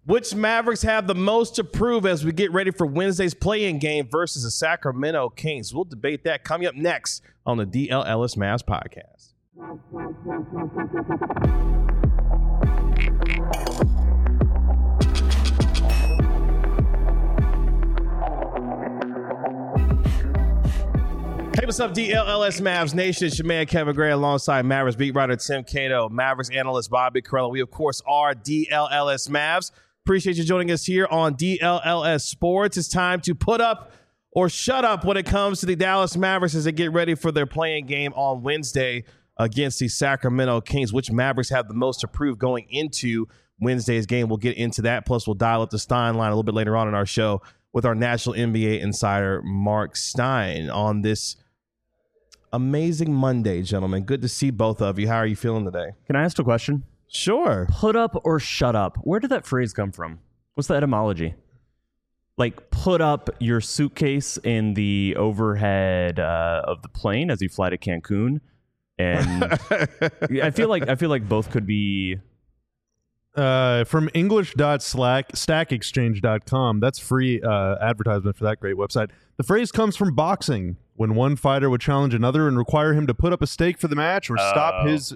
Which Mavericks have the most to prove as we get ready for Wednesday's play-in game versus the Sacramento Kings? We'll debate that coming up next on the DL Ellis Mavs podcast. Hey, what's up, DLLS Mavs Nation? It's your man, Kevin Gray, alongside Mavericks beat writer Tim Cato, Mavericks analyst Bobby Carello. We, of course, are DLLS Mavs. Appreciate you joining us here on DLLS Sports. It's time to put up or shut up when it comes to the Dallas Mavericks as they get ready for their playing game on Wednesday against the Sacramento Kings. Which Mavericks have the most to prove going into Wednesday's game? We'll get into that. Plus, we'll dial up the Stein line a little bit later on in our show with our national NBA insider, Mark Stein, on this amazing Monday, gentlemen. Good to see both of you. How are you feeling today? Can I ask a question? Sure. Put up or shut up. Where did that phrase come from? What's the etymology? Like, put up your suitcase in the overhead of the plane as you fly to Cancun, and I feel like both could be. From English.stackexchange.com. That's free advertisement for that great website. The phrase comes from boxing, when one fighter would challenge another and require him to put up a stake for the match or stop his,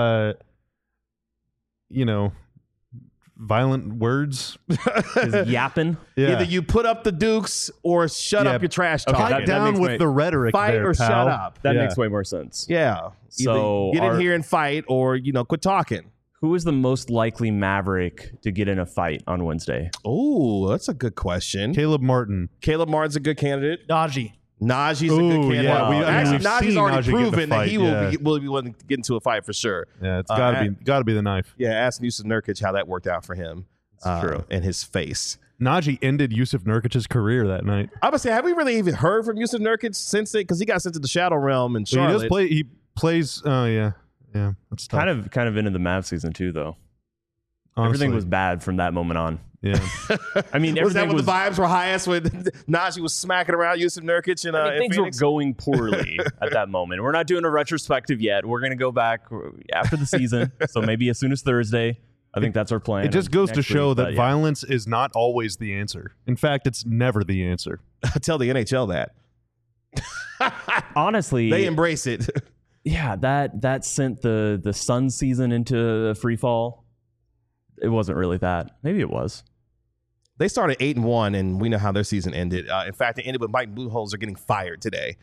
violent words. His yapping. Yeah. Either you put up the dukes or shut up your trash talk. Pipe down with the rhetoric. Fight there, or pal. shut up. That makes way more sense. Yeah. So Either get in here and fight or, quit talking. Who is the most likely Maverick to get in a fight on Wednesday? Oh, that's a good question. Caleb Martin. Caleb Martin's a good candidate. Najee. Najee's a good candidate. Yeah, Actually, we've Najee's seen already Najee proven that fight, he will be willing to get into a fight for sure. Yeah, it's gotta be the knife. Yeah, ask Yusuf Nurkic how that worked out for him. True. And his face. Najee ended Yusuf Nurkic's career that night. I would say, have we really even heard from Yusuf Nurkic since it? Because he got sent to the Shadow Realm in Charlotte. He plays. Oh yeah. That's tough. Kind of into the Mavs season too, though. Honestly. Everything was bad from that moment on. Yeah. I mean, was that when the vibes were highest when Najee was smacking around Yusuf Nurkic and things Phoenix? were going poorly at that moment. We're not doing a retrospective yet. We're going to go back after the season, so maybe as soon as Thursday. I think that's our plan. It just goes to show that yeah. violence is not always the answer. In fact, it's never the answer. Tell the NHL that. Honestly, they embrace it. Yeah, that sent the Sun season into free fall. It wasn't really that. Maybe it was. They started 8-1, and we know how their season ended. In fact, it ended with Mike Budenholzer getting fired today.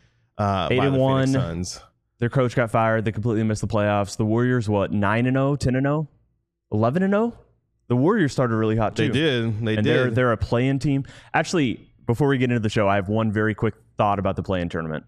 8-1. Suns. Their coach got fired. They completely missed the playoffs. The Warriors, 9-0, 10-0, 11-0. The Warriors started really hot too. They did. They and did. They're a play-in team. Actually, before we get into the show, I have one very quick thought about the play-in tournament.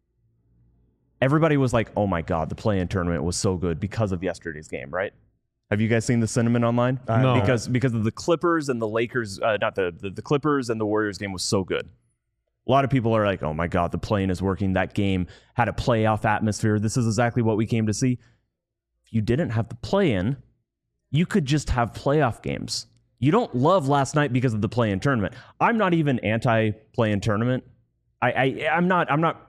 Everybody was like, "Oh my God, the play-in tournament was so good because of yesterday's game," right? Have you guys seen the sentiment online? No. Because of the Clippers and the Lakers, not the Clippers and the Warriors game was so good. A lot of people are like, "Oh my God, the play-in is working." That game had a playoff atmosphere. This is exactly what we came to see. If you didn't have the play-in, you could just have playoff games. You don't love last night because of the play-in tournament. I'm not even anti-play-in tournament. I'm not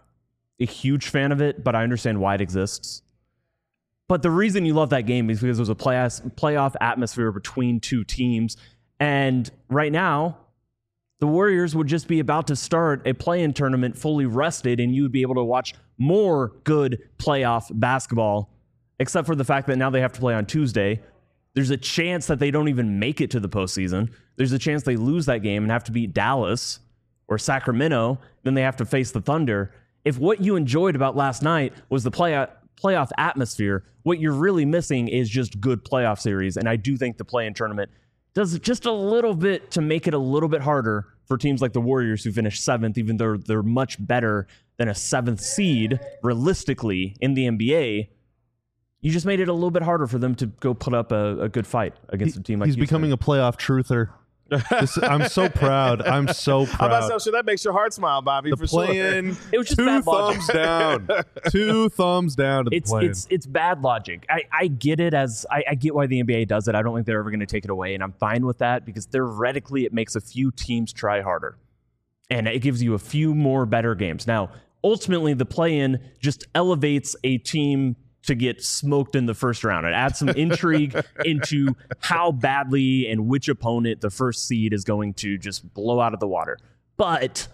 a huge fan of it, but I understand why it exists. But the reason you love that game is because there's a playoff atmosphere between two teams. And right now, the Warriors would just be about to start a play-in tournament fully rested, and you would be able to watch more good playoff basketball, except for the fact that now they have to play on Tuesday. There's a chance that they don't even make it to the postseason. There's a chance they lose that game and have to beat Dallas or Sacramento. Then they have to face the Thunder. If what you enjoyed about last night was the playoff atmosphere, what you're really missing is just good playoff series. And I do think the play-in tournament does just a little bit to make it a little bit harder for teams like the Warriors who finished 7th, even though they're much better than a 7th seed realistically in the NBA. You just made it a little bit harder for them to go put up a good fight against a team like He's Houston. becoming a playoff truther. I'm so proud. I'm so proud. How about so? Sure, that makes your heart smile, Bobby. The for play-in, sure. It was just 2 bad logic. thumbs down. 2 thumbs down to the play-in. It's bad logic. I get it I get why the NBA does it. I don't think they're ever going to take it away, and I'm fine with that because theoretically it makes a few teams try harder, and it gives you a few more better games. Now, ultimately, the play-in just elevates a team to get smoked in the first round. It adds some intrigue into how badly and which opponent the first seed is going to just blow out of the water. But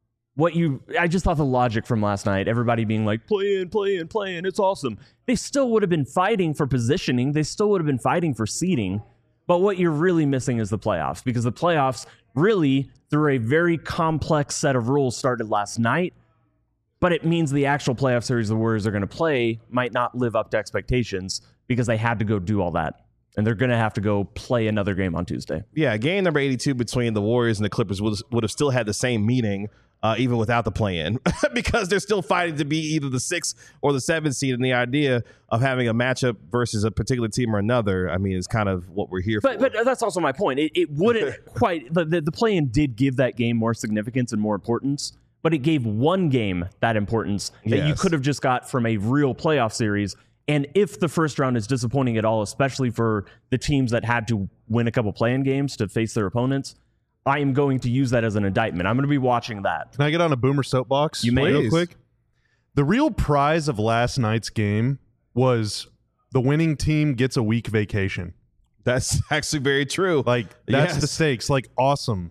I just thought the logic from last night, everybody being like, play in, it's awesome. They still would have been fighting for positioning. They still would have been fighting for seeding. But what you're really missing is the playoffs, because the playoffs really, through a very complex set of rules, started last night. But it means the actual playoff series the Warriors are going to play might not live up to expectations because they had to go do all that. And they're going to have to go play another game on Tuesday. Yeah, game number 82 between the Warriors and the Clippers would have still had the same meaning even without the play-in because they're still fighting to be either the 6th or the 7th seed. And the idea of having a matchup versus a particular team or another, I mean, is kind of what we're here for. But that's also my point. It wouldn't quite... The play-in did give that game more significance and more importance, but it gave one game that importance that you could have just got from a real playoff series. And if the first round is disappointing at all, especially for the teams that had to win a couple play-in games to face their opponents, I am going to use that as an indictment. I'm going to be watching that. Can I get on a Boomer soapbox? You may. Real quick. The real prize of last night's game was the winning team gets a week vacation. That's actually very true. Like, that's the stakes. Like, awesome.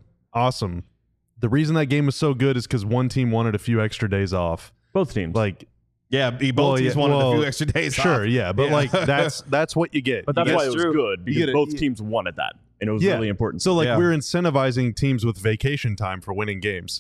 The reason that game was so good is because one team wanted a few extra days off. Both teams. Like, yeah, both teams wanted a few extra days off. Sure, yeah, but like that's what you get. But that's why it was true. good, because both teams wanted that, and it was really important. So like we're incentivizing teams with vacation time for winning games.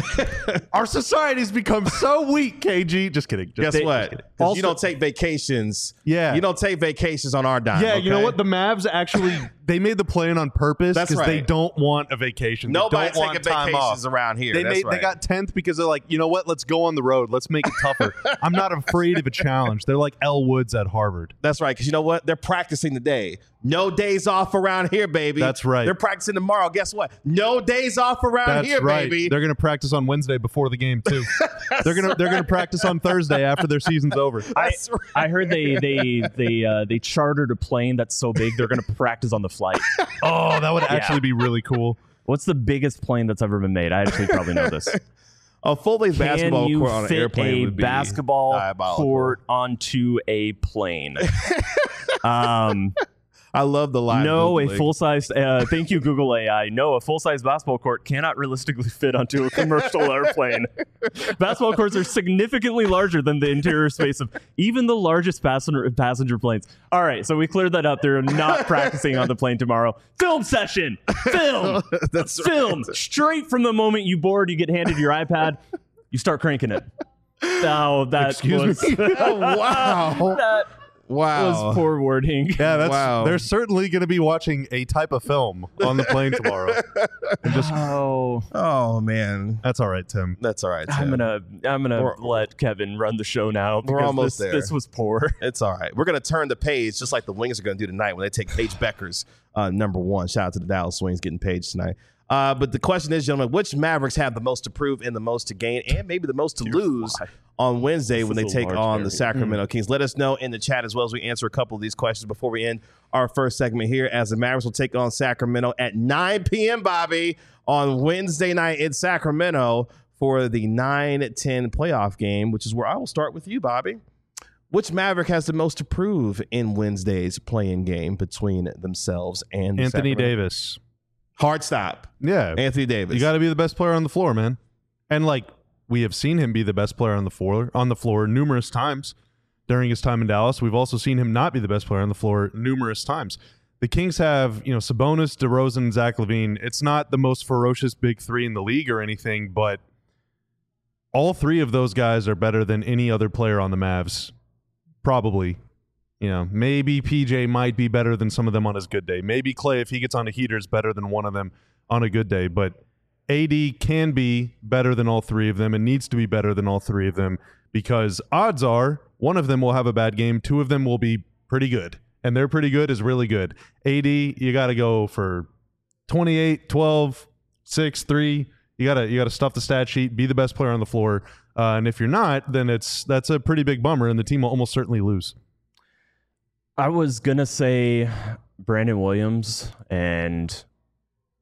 Our society's become so weak, KG. Just kidding. Guess what? Because you don't take vacations. Yeah. You don't take vacations on our dime. Yeah, okay? you know what? The Mavs actually, they made the play-in on purpose because they don't want a vacation. Nobody they don't taking want time vacations off. around here. They got 10th because they're like, you know what? Let's go on the road. Let's make it tougher. I'm not afraid of a challenge. They're like Elle Woods at Harvard. That's right, because you know what? They're practicing today. No days off around here, baby. That's right. They're practicing tomorrow. Guess what? No days off around here, baby. They're going to practice on Wednesday before the game too. They're gonna practice on Thursday after their season's over. I heard they chartered a plane that's so big they're going to practice on the flight. Oh, that would actually be really cool. What's the biggest plane that's ever been made? I actually probably know this. A full-length basketball court on an airplane would be basketball diabolical. court onto a plane. I love the line. No, a full-size. Thank you, Google AI. No, a full-size basketball court cannot realistically fit onto a commercial airplane. Basketball courts are significantly larger than the interior space of even the largest passenger planes. All right, so we cleared that up. They're not practicing on the plane tomorrow. Film session. Film. That's film. right. Straight from the moment you board, you get handed your iPad, you start cranking it. Oh, that Excuse me? Oh, wow. That Wow. was poor wording. Yeah, that's Wow. they're certainly going to be watching a type of film on the plane tomorrow. And just, Oh, man. that's all right, Tim. That's all right, I'm Tim. gonna let Kevin run the show now. We're because almost there. This was poor. It's all right. We're going to turn the page just like the Wings are going to do tonight when they take Paige Becker's number one. Shout out to the Dallas Wings getting Paige tonight. But the question is, gentlemen, which Mavericks have the most to prove and the most to gain and maybe the most to lose on Wednesday when they take on the Sacramento Kings? Let us know in the chat as well as we answer a couple of these questions before we end our first segment here, as the Mavericks will take on Sacramento at 9 p.m., Bobby, on Wednesday night in Sacramento for the 9-10 playoff game, which is where I will start with you, Bobby. Which Maverick has the most to prove in Wednesday's play-in game between themselves and Anthony Sacramento? Davis. Hard stop. Yeah. Anthony Davis. You got to be the best player on the floor, man. And like we have seen him be the best player on the floor numerous times during his time in Dallas. We've also seen him not be the best player on the floor numerous times. The Kings have, Sabonis, DeRozan, and Zach LaVine. It's not the most ferocious big three in the league or anything, but all three of those guys are better than any other player on the Mavs. Probably. Maybe PJ might be better than some of them on his good day. Maybe Clay, if he gets on a heater, is better than one of them on a good day. But AD can be better than all three of them and needs to be better than all three of them, because odds are one of them will have a bad game. Two of them will be pretty good. And their pretty good is really good. AD, you got to go for 28, 12, 6, 3. You gotta stuff the stat sheet, be the best player on the floor. And if you're not, then that's a pretty big bummer, and the team will almost certainly lose. I was gonna say Brandon Williams, and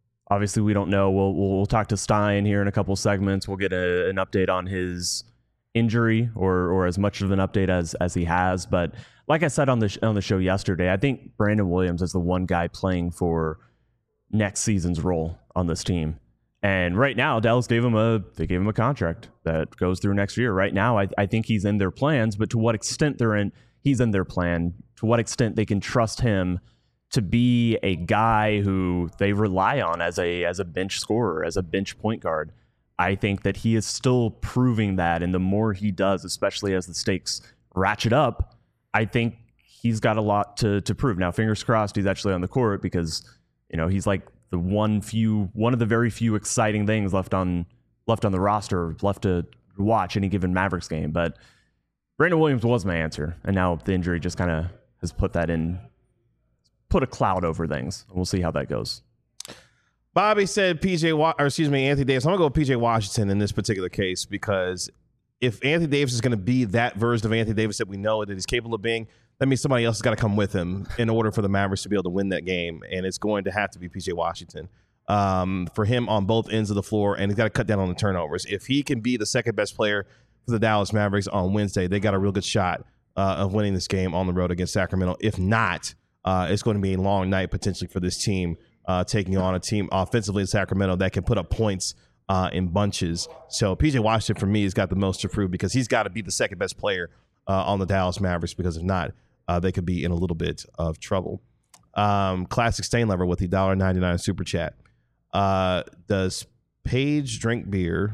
obviously we don't know. We'll talk to Stein here in a couple segments. We'll get an update on his injury or as much of an update as he has. But like I said on the show yesterday, I think Brandon Williams is the one guy playing for next season's role on this team. And right now, Dallas gave him a contract that goes through next year. Right now, I think he's in their plans, but to what extent he's in their plan, to what extent they can trust him to be a guy who they rely on as a bench scorer, as a bench point guard. I think that he is still proving that, and the more he does, especially as the stakes ratchet up, I think he's got a lot to prove. Now, fingers crossed he's actually on the court, because he's like the one of the very few exciting things left on the roster, left to watch any given Mavericks game. But Brandon Williams was my answer, and now the injury just kind of has put a cloud over things. We'll see how that goes. Bobby said Anthony Davis. I'm gonna go with PJ Washington in this particular case, because if Anthony Davis is going to be that version of Anthony Davis that we know that he's capable of being, that means somebody else has got to come with him in order for the Mavericks to be able to win that game, and it's going to have to be PJ Washington for him on both ends of the floor, and he's got to cut down on the turnovers. If he can be the second best player for the Dallas Mavericks on Wednesday, they got a real good shot of winning this game on the road against Sacramento. If not, it's going to be a long night potentially for this team, taking on a team offensively in Sacramento that can put up points in bunches. So PJ Washington for me has got the most to prove, because he's got to be the second best player on the Dallas Mavericks, because if not, they could be in a little bit of trouble. Classic Stain Lover with the $1.99 super chat. Does Paige drink beer?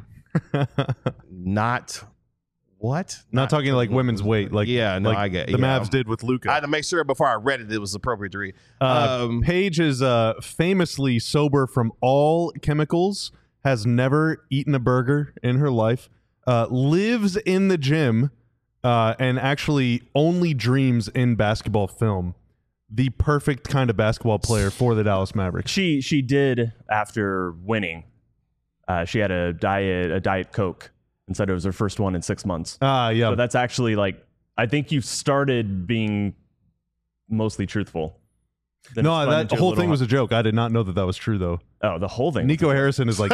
Not what? Not talking like women's weight. Like, yeah, no, like I get the Mavs did with Luka. I had to make sure before I read it was appropriate to read. Paige is famously sober from all chemicals, has never eaten a burger in her life, lives in the gym, and actually only dreams in basketball film. The perfect kind of basketball player for the Dallas Mavericks. She did, after winning, she had a Diet Coke and said it was her first one in 6 months. Yeah. So that's actually, like, I think you started being mostly truthful. No, that whole thing was a joke. I did not know that was true, though. Oh, the whole thing. Nico Harrison is like,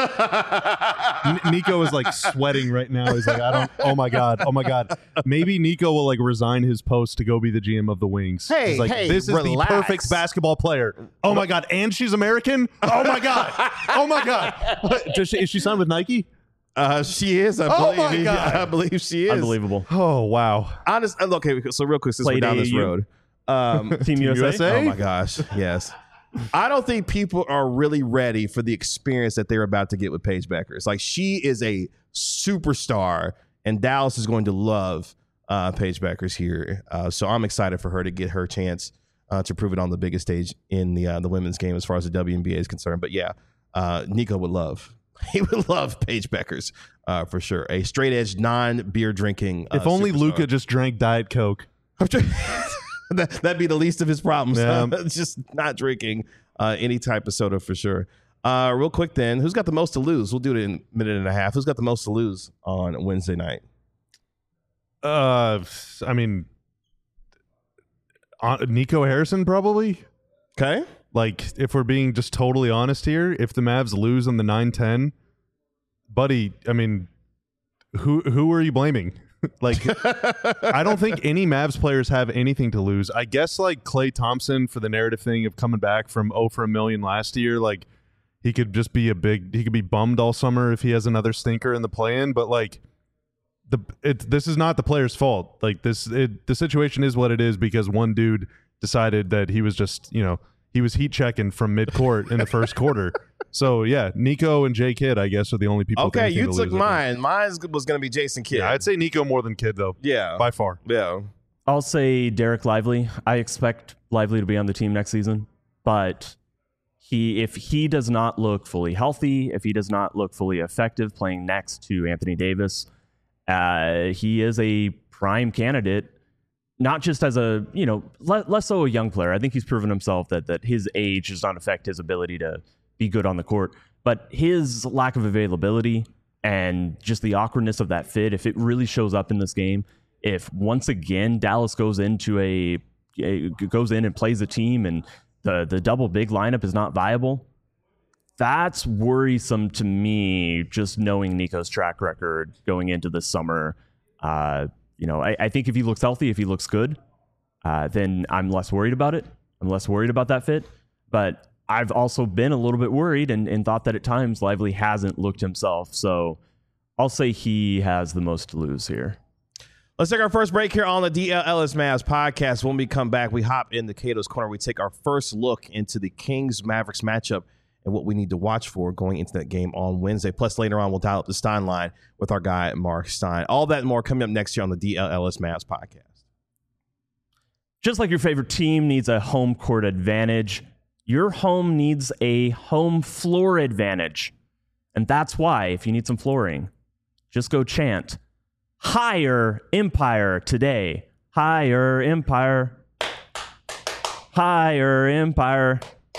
Nico is like sweating right now. He's like, oh my God. Maybe Nico will like resign his post to go be the GM of the Wings. Hey, He's like, this is relax. the perfect basketball player. Oh my God. And she's American? Oh my God. What? Is she signed with Nike? She is, I believe. Oh my God. I believe she is. Unbelievable. Oh, wow. Honest. Okay, so real quick, since we're down this road. Team USA? Oh my gosh, yes. I don't think people are really ready for the experience that they're about to get with Paige Beckers. Like, she is a superstar, and Dallas is going to love Paige Beckers here. So I'm excited for her to get her chance to prove it on the biggest stage in the women's game as far as the WNBA is concerned. But yeah, Nico would love. He would love Paige Beckers for sure. A straight edge, non-beer drinking. If only superstar. Luka just drank Diet Coke. That'd be the least of his problems. Yeah. Just not drinking any type of soda for sure. Real quick then, who's got the most to lose? We'll do it in a minute and a half. Who's got the most to lose on Wednesday night? I mean, Nico Harrison probably. Okay. Like, if we're being just totally honest here, if the Mavs lose on the 9-10, buddy, I mean, who are you blaming? Like, I don't think any Mavs players have anything to lose. I guess, like, Klay Thompson for the narrative thing of coming back from 0 for a million last year, like, he could just be he could be bummed all summer if he has another stinker in the play-in, but, like, this is not the player's fault. Like, the situation is what it is because one dude decided that he was just, he was heat checking from mid-court in the first quarter. So, yeah, Nico and J. Kidd, I guess, are the only people. Okay, you took mine. Mine was going to be Jason Kidd. Yeah, I'd say Nico more than Kidd, though. Yeah. By far. Yeah. I'll say Derek Lively. I expect Lively to be on the team next season, but if he does not look fully healthy, if he does not look fully effective playing next to Anthony Davis, he is a prime candidate. Not just as a, less so a young player. I think he's proven himself that his age does not affect his ability to be good on the court, but his lack of availability and just the awkwardness of that fit, if it really shows up in this game, if once again Dallas goes in and plays a team and the double big lineup is not viable, that's worrisome to me, just knowing Nico's track record going into this summer. I think if he looks healthy, if he looks good, then I'm less worried about it. I'm less worried about that fit. But I've also been a little bit worried and thought that at times Lively hasn't looked himself. So I'll say he has the most to lose here. Let's take our first break here on the DLLS Mavs podcast. When we come back, we hop into Cato's Corner. We take our first look into the Kings-Mavericks matchup and what we need to watch for going into that game on Wednesday. Plus, later on, we'll dial up the Stein line with our guy, Mark Stein. All that and more coming up next year on the DLLS Mavs podcast. Just like your favorite team needs a home court advantage, your home needs a home floor advantage. And that's why, if you need some flooring, just go chant, "Higher Empire today. Higher Empire. Higher Empire.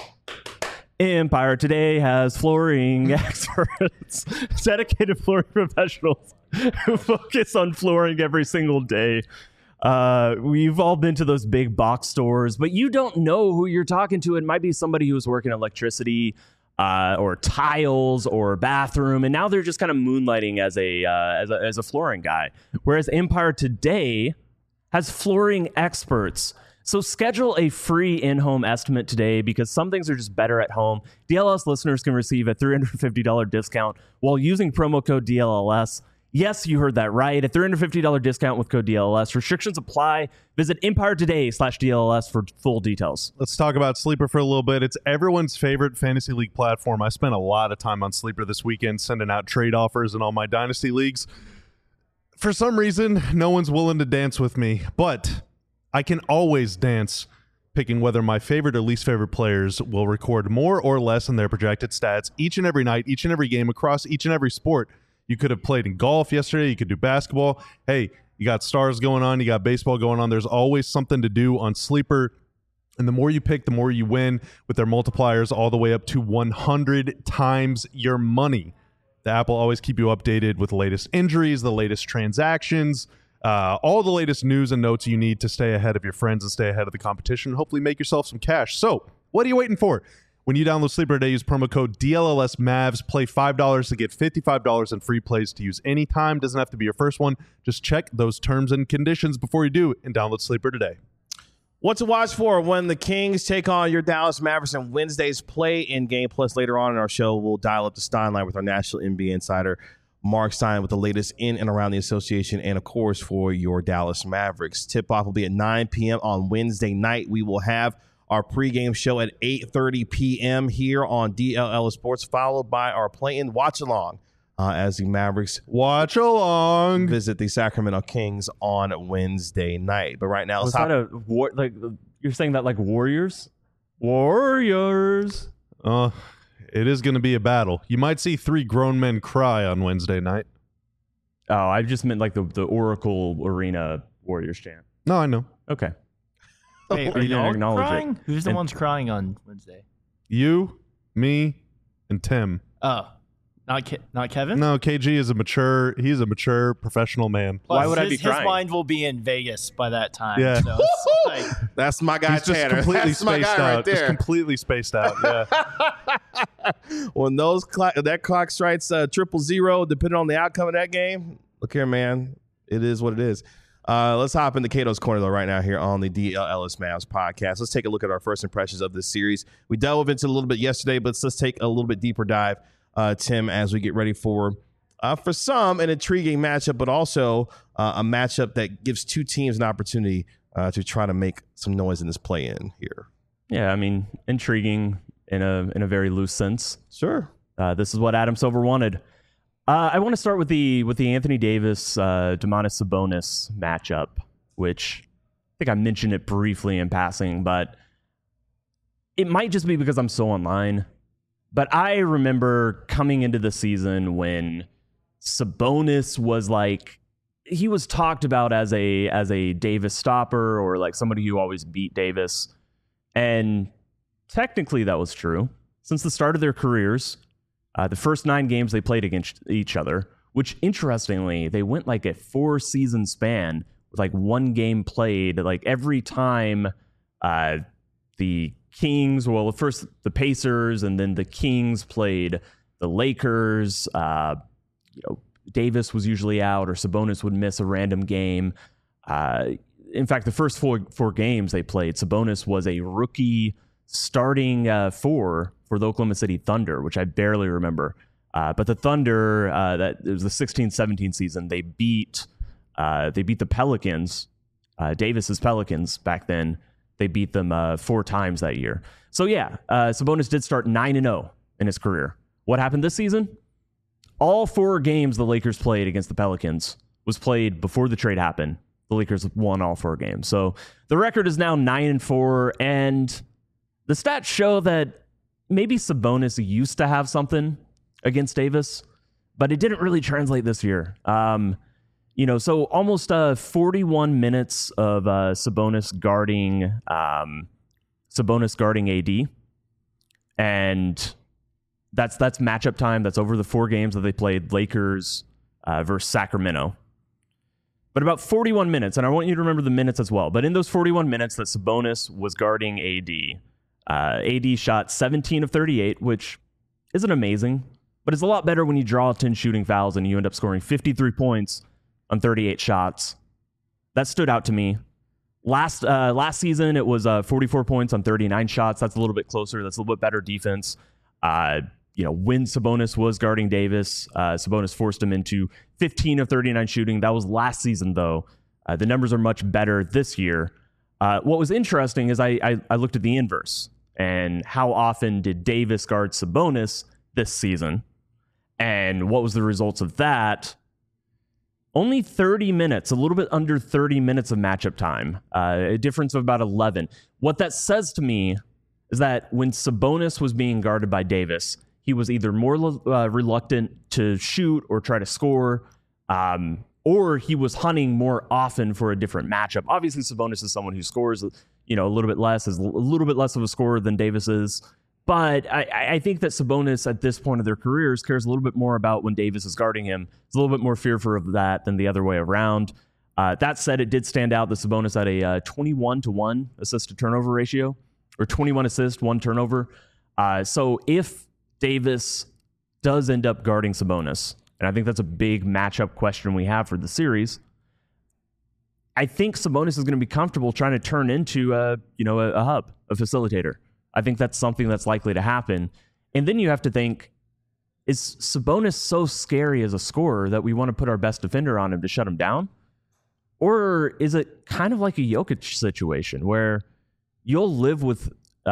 Empire today has flooring experts, dedicated flooring professionals who focus on flooring every single day." We've all been to those big box stores, but you don't know who you're talking to. It might be somebody who's working electricity, or tiles or bathroom, and now they're just kind of moonlighting as a flooring guy. Whereas Empire today has flooring experts. So schedule a free in-home estimate today because some things are just better at home. DLS listeners can receive a $350 discount while using promo code DLLS. Yes, you heard that right. A $350 discount with code DLLS. Restrictions apply. Visit EmpireToday/DLLS for full details. Let's talk about Sleeper for a little bit. It's everyone's favorite fantasy league platform. I spent a lot of time on Sleeper this weekend sending out trade offers in all my dynasty leagues. For some reason, no one's willing to dance with me, but I can always dance picking whether my favorite or least favorite players will record more or less in their projected stats each and every night, each and every game across each and every sport. You could have played in golf yesterday. You could do basketball. Hey, you got stars going on. You got baseball going on. There's always something to do on Sleeper. And the more you pick, the more you win with their multipliers all the way up to 100 times your money. The app will always keep you updated with the latest injuries, the latest transactions, all the latest news and notes you need to stay ahead of your friends and stay ahead of the competition and hopefully make yourself some cash. So what are you waiting for? When you download Sleeper today, use promo code DLLSMavs. Play $5 to get $55 in free plays to use anytime. Doesn't have to be your first one. Just check those terms and conditions before you do and download Sleeper today. What to watch for when the Kings take on your Dallas Mavericks in Wednesday's play-in game. Plus, later on in our show, we'll dial up the Stein line with our national NBA insider, Mark Stein, with the latest in and around the association and, of course, for your Dallas Mavericks. Tip-off will be at 9 p.m. on Wednesday night. We will have our pregame show at 8:30 p.m. here on DLL Sports, followed by our play-in watch-along as the Mavericks watch along visit the Sacramento Kings on Wednesday night. But right now, was that a war? Like you're saying that like Warriors? Warriors. It is going to be a battle. You might see 3 grown men cry on Wednesday night. Oh, I just meant like the Oracle Arena Warriors chant. No, I know. Okay. Wait, are you all crying? Who's the ones crying on Wednesday? You, me, and Tim. Oh, not Kevin? No, KG is he's a mature professional man. Plus, why would I be crying? His mind will be in Vegas by that time. Yeah. So it's like, that's my guy, he's just Tanner. completely That's my spaced guy out. right there. Just completely spaced out. Yeah. When that clock strikes 000, depending on the outcome of that game, look here, man. It is what it is. Let's hop into Cato's Corner, though, right now here on the DLLS Mavs podcast. Let's take a look at our first impressions of this series. We delved into it a little bit yesterday, but let's take a little bit deeper dive, Tim, as we get ready for some, an intriguing matchup, but also a matchup that gives two teams an opportunity to try to make some noise in this play-in here. Yeah, I mean, intriguing in a very loose sense. Sure. This is what Adam Silver wanted. I want to start with the Anthony Davis Domantas Sabonis matchup, which I think I mentioned it briefly in passing, but it might just be because I'm so online. But I remember coming into the season when Sabonis was like, he was talked about as a Davis stopper or like somebody who always beat Davis, and technically that was true since the start of their careers. The first 9 games they played against each other, which interestingly, they went like a 4-season span with like 1 game played. Like every time the Kings, well, first the Pacers and then the Kings played the Lakers, Davis was usually out or Sabonis would miss a random game. In fact, the first four games they played, Sabonis was a rookie starting for the Oklahoma City Thunder, which I barely remember. But the Thunder, it was the 16-17 season. They beat the Pelicans, Davis's Pelicans back then. They beat them 4 times that year. So yeah, Sabonis did start 9-0 in his career. What happened this season? All 4 games the Lakers played against the Pelicans was played before the trade happened. The Lakers won all 4 games. So the record is now 9-4, and the stats show that maybe Sabonis used to have something against Davis, but it didn't really translate this year. So almost 41 minutes of Sabonis guarding AD, and that's matchup time. That's over the 4 games that they played, Lakers versus Sacramento. But about 41 minutes, and I want you to remember the minutes as well. But in those 41 minutes that Sabonis was guarding AD, AD shot 17 of 38, which isn't amazing, but it's a lot better when you draw 10 shooting fouls and you end up scoring 53 points on 38 shots. That stood out to me. Last season, it was 44 points on 39 shots. That's a little bit closer. That's a little bit better defense. When Sabonis was guarding Davis, Sabonis forced him into 15 of 39 shooting. That was last season, though. The numbers are much better this year. What was interesting is I looked at the inverse and how often did Davis guard Sabonis this season, and what was the results of that? Only 30 minutes, a little bit under 30 minutes of matchup time, a difference of about 11. What that says to me is that when Sabonis was being guarded by Davis, he was either more reluctant to shoot or try to score, or he was hunting more often for a different matchup. Obviously, Sabonis is someone who scores, a little bit less, is a little bit less of a scorer than Davis is. But I think that Sabonis at this point of their careers cares a little bit more about when Davis is guarding him. He's a little bit more fearful of that than the other way around. That said, it did stand out that Sabonis had a 21-1 assist to turnover ratio, or 21 assists, 1 turnover. So if Davis does end up guarding Sabonis, and I think that's a big matchup question we have for the series, I think Sabonis is going to be comfortable trying to turn into a hub, a facilitator. I think that's something that's likely to happen. And then you have to think, is Sabonis so scary as a scorer that we want to put our best defender on him to shut him down? Or is it kind of like a Jokic situation where you'll live with,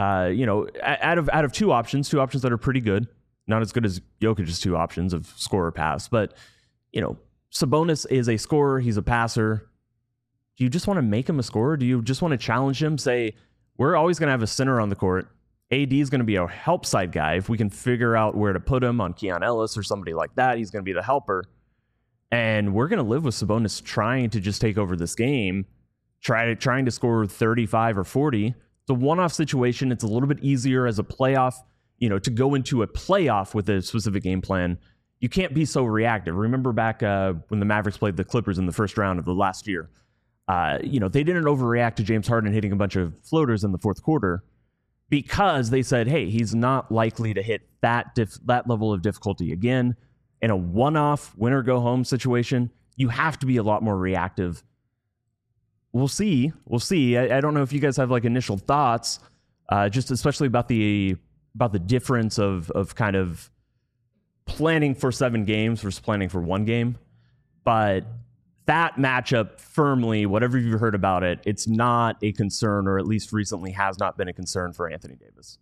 out of 2 options that are pretty good, not as good as Jokic's 2 options of scorer pass, but, Sabonis is a scorer, he's a passer. Do you just want to make him a scorer? Do you just want to challenge him, say, we're always going to have a center on the court. AD is going to be a help side guy. If we can figure out where to put him on Keon Ellis or somebody like that, he's going to be the helper. And we're going to live with Sabonis trying to just take over this game, trying to score 35 or 40. It's a one-off situation. It's a little bit easier as a playoff, to go into a playoff with a specific game plan. You can't be so reactive. Remember back when the Mavericks played the Clippers in the first round of the last year. They didn't overreact to James Harden hitting a bunch of floaters in the fourth quarter because they said, hey, he's not likely to hit that level of difficulty again. In a one-off winner-go-home situation, you have to be a lot more reactive. We'll see. I don't know if you guys have initial thoughts, just especially about the difference of kind of planning for 7 games versus planning for 1 game. But that matchup firmly, whatever you've heard about it, it's not a concern, or at least recently has not been a concern for Anthony Davis.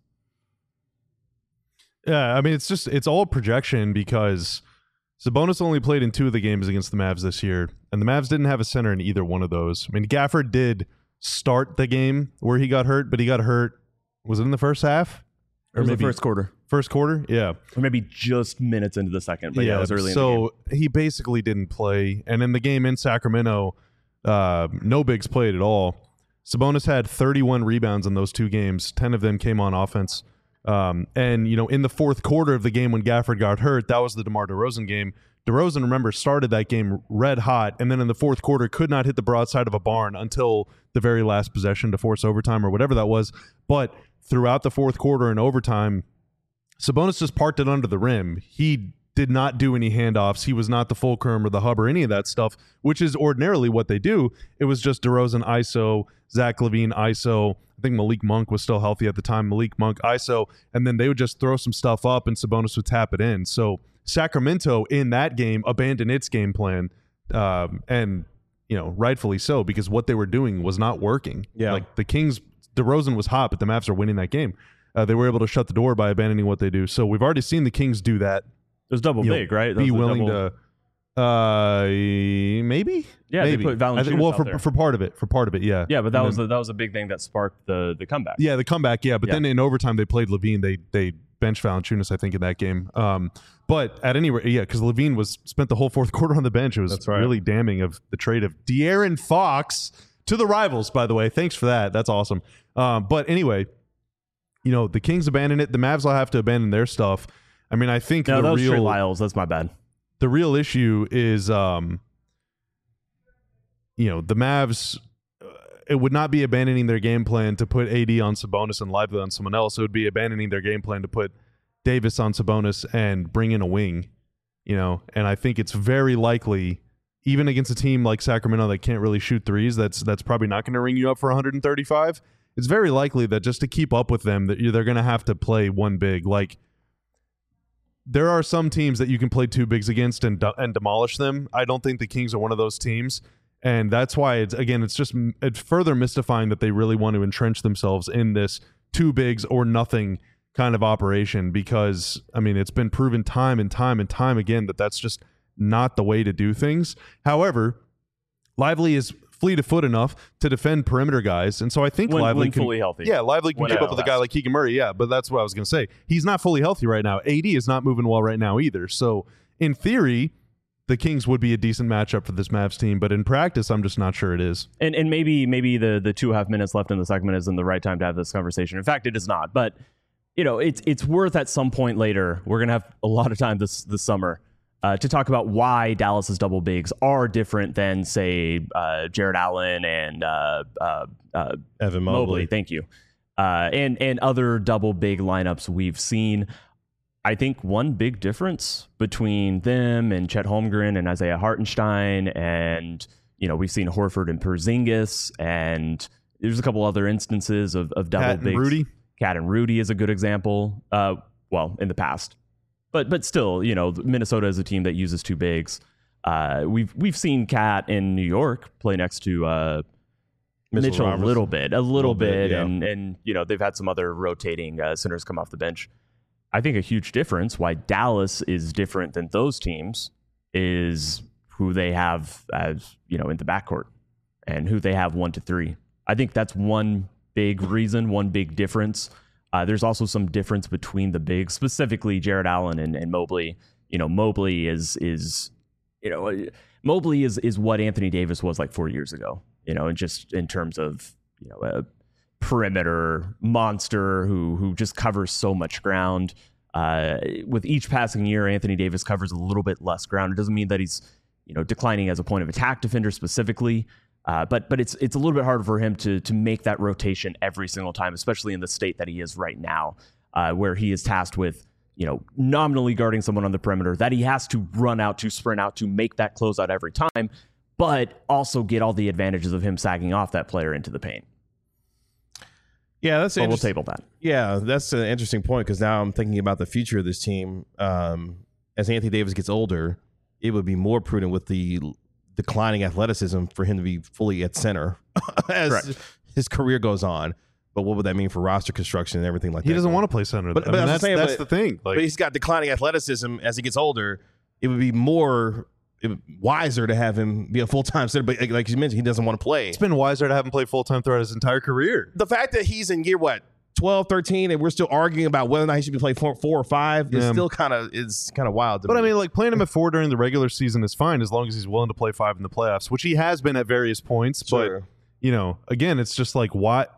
Yeah, I mean, it's all projection because Sabonis only played in 2 of the games against the Mavs this year, and the Mavs didn't have a center in either one of those. I mean, Gafford did start the game where he got hurt, but he got hurt, was it in the first half? Or maybe the first quarter. First quarter, yeah. Or maybe just minutes into the second, but yeah, it was early in the game. So he basically didn't play. And in the game in Sacramento, no bigs played at all. Sabonis had 31 rebounds in those 2 games. 10 of them came on offense. And, in the fourth quarter of the game when Gafford got hurt, that was the DeMar DeRozan game. DeRozan, remember, started that game red hot, and then in the fourth quarter could not hit the broadside of a barn until the very last possession to force overtime or whatever that was. But throughout the fourth quarter and overtime, Sabonis just parked it under the rim. He did not do any handoffs. He was not the Fulcrum or the hub or any of that stuff, which is ordinarily what they do. It was just DeRozan ISO, Zach LaVine ISO. I think Malik Monk was still healthy at the time. Malik Monk ISO, and then they would just throw some stuff up, and Sabonis would tap it in. So Sacramento in that game abandoned its game plan, and rightfully so, because what they were doing was not working. Yeah, like the Kings, DeRozan was hot, but the Mavs are winning that game. They were able to shut the door by abandoning what they do. So we've already seen the Kings do that. It was double big, right? Be willing to, maybe. Yeah, maybe. They put Valanciunas well, out there. for part of it, yeah. Yeah, but that was a big thing that sparked the comeback. Yeah, the comeback. Yeah, but then in overtime they played LaVine. They benched Valanciunas, I think, in that game. But at any rate, yeah, because LaVine spent the whole fourth quarter on the bench. It was really damning of the trade of De'Aaron Fox to the rivals. By the way, thanks for that. That's awesome. But anyway, the Kings abandon it. The Mavs will have to abandon their stuff. I mean, I think that was Trey Lyles. That's my bad. The real issue is, the Mavs. It would not be abandoning their game plan to put AD on Sabonis and Lively on someone else. It would be abandoning their game plan to put Davis on Sabonis and bring in a wing. And I think it's very likely, even against a team like Sacramento that can't really shoot threes, that's probably not going to ring you up for 135. It's very likely that just to keep up with them, that they're going to have to play one big. Like, there are some teams that you can play two bigs against and demolish them. I don't think the Kings are one of those teams. And that's why, it's further mystifying that they really want to entrench themselves in this two bigs or nothing kind of operation, because, I mean, it's been proven time and time and time again that that's just not the way to do things. However, Lively is fleet of foot enough to defend perimeter guys, and so I think Lively can, fully healthy. Yeah, Lively can keep up with a guy like Keegan Murray. Yeah, but that's what I was going to say. He's not fully healthy right now. AD is not moving well right now either. So in theory, the Kings would be a decent matchup for this Mavs team, but in practice, I'm just not sure it is. And maybe the 2.5 minutes left in the segment isn't the right time to have this conversation. In fact, it is not. But it's worth at some point later. We're gonna have a lot of time this summer to talk about why Dallas's double bigs are different than, say, Jared Allen and Evan Mobley. Thank you, and other double big lineups we've seen. I think one big difference between them and Chet Holmgren and Isaiah Hartenstein, and we've seen Horford and Porzingis, and there's a couple other instances of double bigs. Rudy. Cat and Rudy is a good example. In the past, but still, Minnesota is a team that uses two bigs. We've seen Cat in New York play next to Mitchell a little bit, yeah. and they've had some other rotating centers come off the bench. I think a huge difference why Dallas is different than those teams is who they have as, in the backcourt and who they have 1 to 3. I think that's one big reason, one big difference. There's also some difference between the bigs, specifically Jared Allen and Mobley. Mobley is what Anthony Davis was like 4 years ago, and just in terms of, a perimeter monster who just covers so much ground. With each passing year, Anthony Davis covers a little bit less ground. It doesn't mean that he's declining as a point of attack defender specifically, but it's a little bit harder for him to make that rotation every single time, especially in the state that he is right now, where he is tasked with nominally guarding someone on the perimeter that he has to run out to, sprint out to, make that closeout every time, but also get all the advantages of him sagging off that player into the paint. Yeah, that's we'll table that. Yeah, that's an interesting point, because now I'm thinking about the future of this team. As Anthony Davis gets older, it would be more prudent with the declining athleticism for him to be fully at center as his career goes on. But what would that mean for roster construction and everything like that? He doesn't want to play center. But that's the thing. But he's got declining athleticism as he gets older. It would be more wiser to have him be a full-time center, but like you mentioned, he doesn't want to play. It's been wiser to have him play full-time throughout his entire career. The fact that he's in year 12, 13, and we're still arguing about whether or not he should be playing 4 or 5 is still kind of wild to me. But I mean, like, playing him at 4 during the regular season is fine as long as he's willing to play 5 in the playoffs, which he has been at various points. Sure. But again, it's just like, what?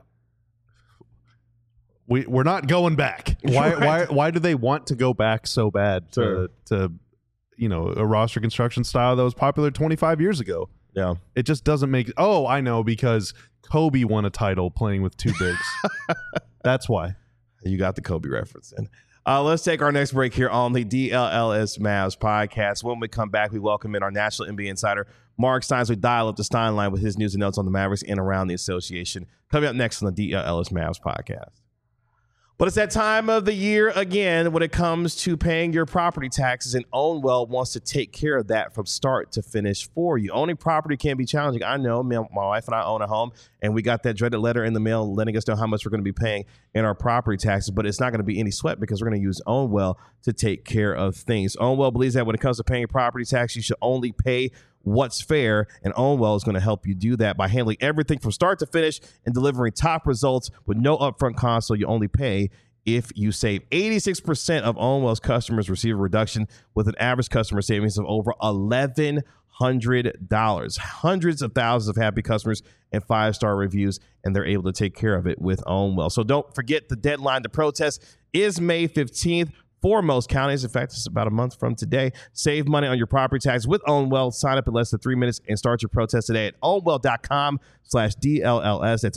We're not going back. Why do they want to go back so bad to a roster construction style that was popular 25 years ago? Yeah. It just doesn't make... Oh, I know, because Kobe won a title playing with two bigs. That's why. You got the Kobe reference in. Let's take our next break here on the DLLS Mavs podcast. When we come back, we welcome in our national NBA insider, Mark Stein. We dial up the Stein line with his news and notes on the Mavericks and around the association. Coming up next on the DLLS Mavs podcast. But it's that time of the year again when it comes to paying your property taxes, and Ownwell wants to take care of that from start to finish for you. Owning property can be challenging. I know. My wife and I own a home, and we got that dreaded letter in the mail letting us know how much we're going to be paying in our property taxes, but it's not going to be any sweat because we're going to use Ownwell to take care of things. Ownwell believes that when it comes to paying property tax, you should only pay what's fair, and Ownwell is going to help you do that by handling everything from start to finish and delivering top results with no upfront cost, so you only pay if you save. 86% of Ownwell's customers receive a reduction with an average customer savings of over $1,100. Hundreds of thousands of happy customers and 5-star reviews, and they're able to take care of it with Ownwell. So don't forget, the deadline to protest is May 15th. For most counties. In fact, it's about a month from today. Save money on your property tax with Ownwell. Sign up in less than 3 minutes and start your protest today at ownwell.com/DLLS. That's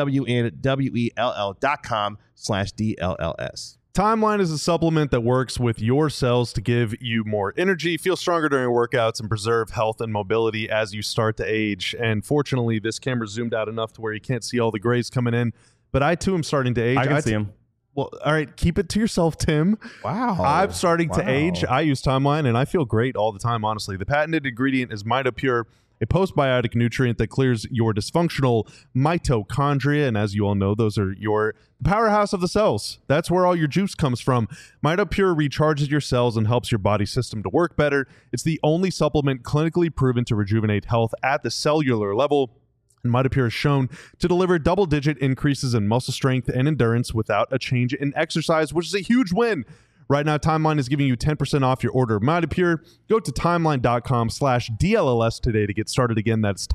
OWNWELL.com/DLLS. Timeline is a supplement that works with your cells to give you more energy, feel stronger during workouts, and preserve health and mobility as you start to age. And fortunately, this camera zoomed out enough to where you can't see all the grays coming in. But I, too, am starting to age. I can see them. Well, all right, keep it to yourself, Tim. Wow. I'm starting to age. I use Timeline, and I feel great all the time, honestly. The patented ingredient is MitoPure, a postbiotic nutrient that clears your dysfunctional mitochondria. And as you all know, those are the powerhouse of the cells. That's where all your juice comes from. MitoPure recharges your cells and helps your body system to work better. It's the only supplement clinically proven to rejuvenate health at the cellular level. And MitoPure is shown to deliver double-digit increases in muscle strength and endurance without a change in exercise, which is a huge win. Right now, Timeline is giving you 10% off your order of MitoPure. Go to timeline.com/DLLS today to get started. Again, that's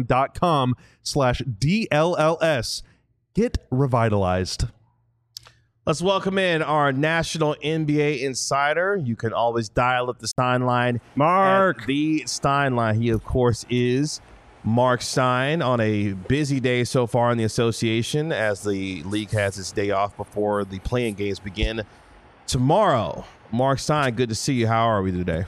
timeline.com/DLLS. Get revitalized. Let's welcome in our national NBA insider. You can always dial up the Stein line. Mark. The Stein line. He, of course, is Mark Stein on a busy day so far in the association as the league has its day off before the playing games begin tomorrow. Mark Stein, good to see you. How are we today?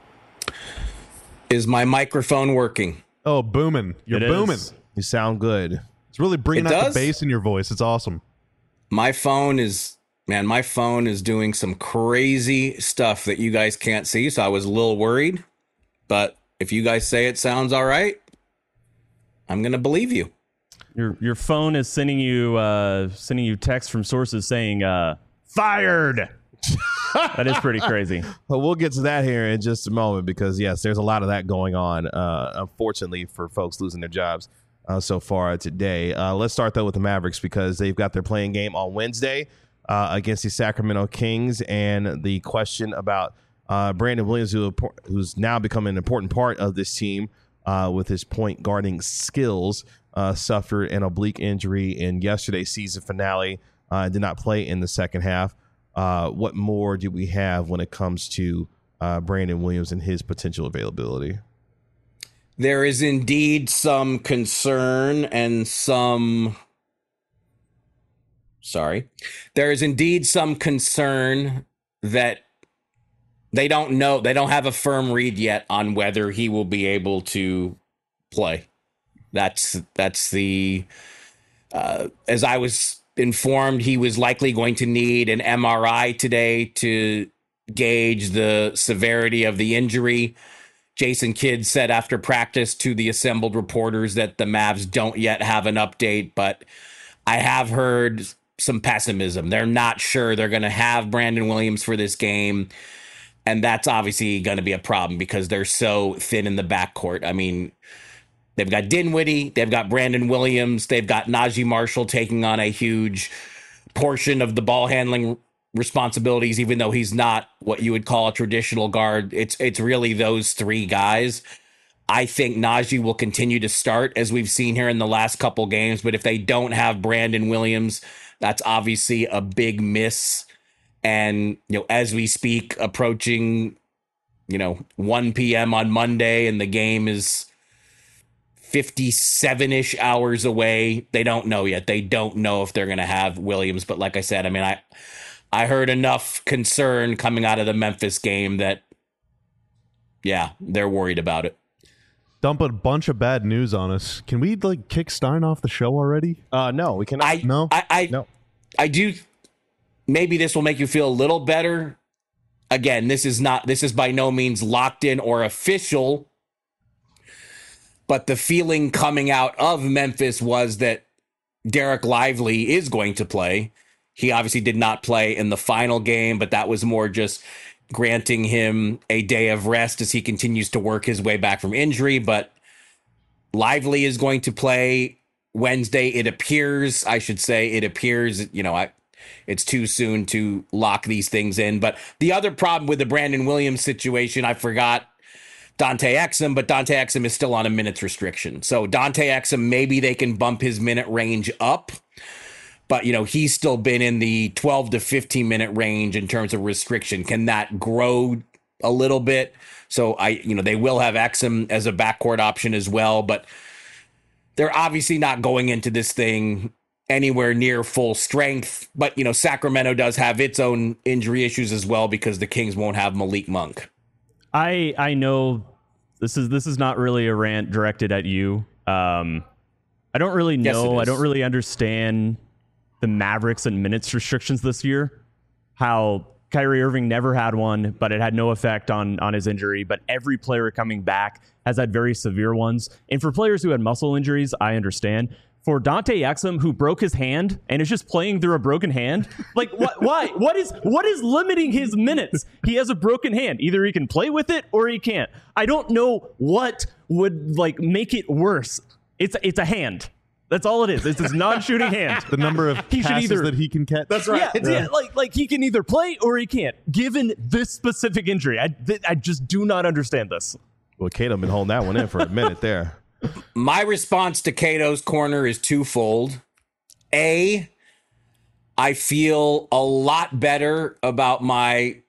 Is my microphone working? Oh, booming. You're booming. You sound good. It's really bringing out the bass in your voice. It's awesome. My phone is doing some crazy stuff that you guys can't see, so I was a little worried. But if you guys say it sounds all right, I'm going to believe you. Your phone is sending you text from sources saying fired. That is pretty crazy. Well, we'll get to that here in just a moment because, yes, there's a lot of that going on, unfortunately, for folks losing their jobs so far today. Let's start, though, with the Mavericks because they've got their playing game on Wednesday against the Sacramento Kings, and the question about Brandon Williams, who's now become an important part of this team, with his point guarding skills, suffered an oblique injury in yesterday's season finale, did not play in the second half. What more do we have when it comes to Brandon Williams and his potential availability? There is indeed some concern and there is indeed some concern that they don't know. They don't have a firm read yet on whether he will be able to play. That's the, as I was informed, he was likely going to need an MRI today to gauge the severity of the injury. Jason Kidd said after practice to the assembled reporters that the Mavs don't yet have an update, but I have heard some pessimism. They're not sure they're going to have Brandon Williams for this game. And that's obviously going to be a problem because they're so thin in the backcourt. I mean, they've got Dinwiddie, they've got Brandon Williams, they've got Najee Marshall taking on a huge portion of the ball handling responsibilities, even though he's not what you would call a traditional guard. It's really those three guys. I think Najee will continue to start as we've seen here in the last couple games. But if they don't have Brandon Williams, that's obviously a big miss. And, as we speak, approaching, 1 p.m. on Monday and the game is 57-ish hours away. They don't know yet. They don't know if they're going to have Williams. But like I said, I mean, I heard enough concern coming out of the Memphis game that, yeah, they're worried about it. Dump a bunch of bad news on us. Can we kick Stein off the show already? No, we cannot. No? No. I do. Maybe this will make you feel a little better. Again, this is by no means locked in or official, but the feeling coming out of Memphis was that Derek Lively is going to play. He obviously did not play in the final game, but that was more just granting him a day of rest as he continues to work his way back from injury. But Lively is going to play Wednesday. It appears, it's too soon to lock these things in. But the other problem with the Brandon Williams situation, I forgot Dante Exum, but Dante Exum is still on a minutes restriction. So Dante Exum, maybe they can bump his minute range up. But, he's still been in the 12 to 15 minute range in terms of restriction. Can that grow a little bit? So they will have Exum as a backcourt option as well, but they're obviously not going into this thing anywhere near full strength. But, Sacramento does have its own injury issues as well because the Kings won't have Malik Monk. I know this is not really a rant directed at you. I don't really know. Yes, I don't really understand the Mavericks and minutes restrictions this year. How Kyrie Irving never had one, but it had no effect on his injury. But every player coming back has had very severe ones. And for players who had muscle injuries, I understand. For Dante Exum, who broke his hand and is just playing through a broken hand, what? Why? What is limiting his minutes? He has a broken hand. Either he can play with it or he can't. I don't know what would make it worse. It's a hand. That's all it is. It's his non-shooting hand. The number of passes that he can catch. That's right. Yeah. He can either play or he can't. Given this specific injury, I just do not understand this. Well, Cato been holding that one in for a minute there. My response to Cato's corner is twofold. A, I feel a lot better about my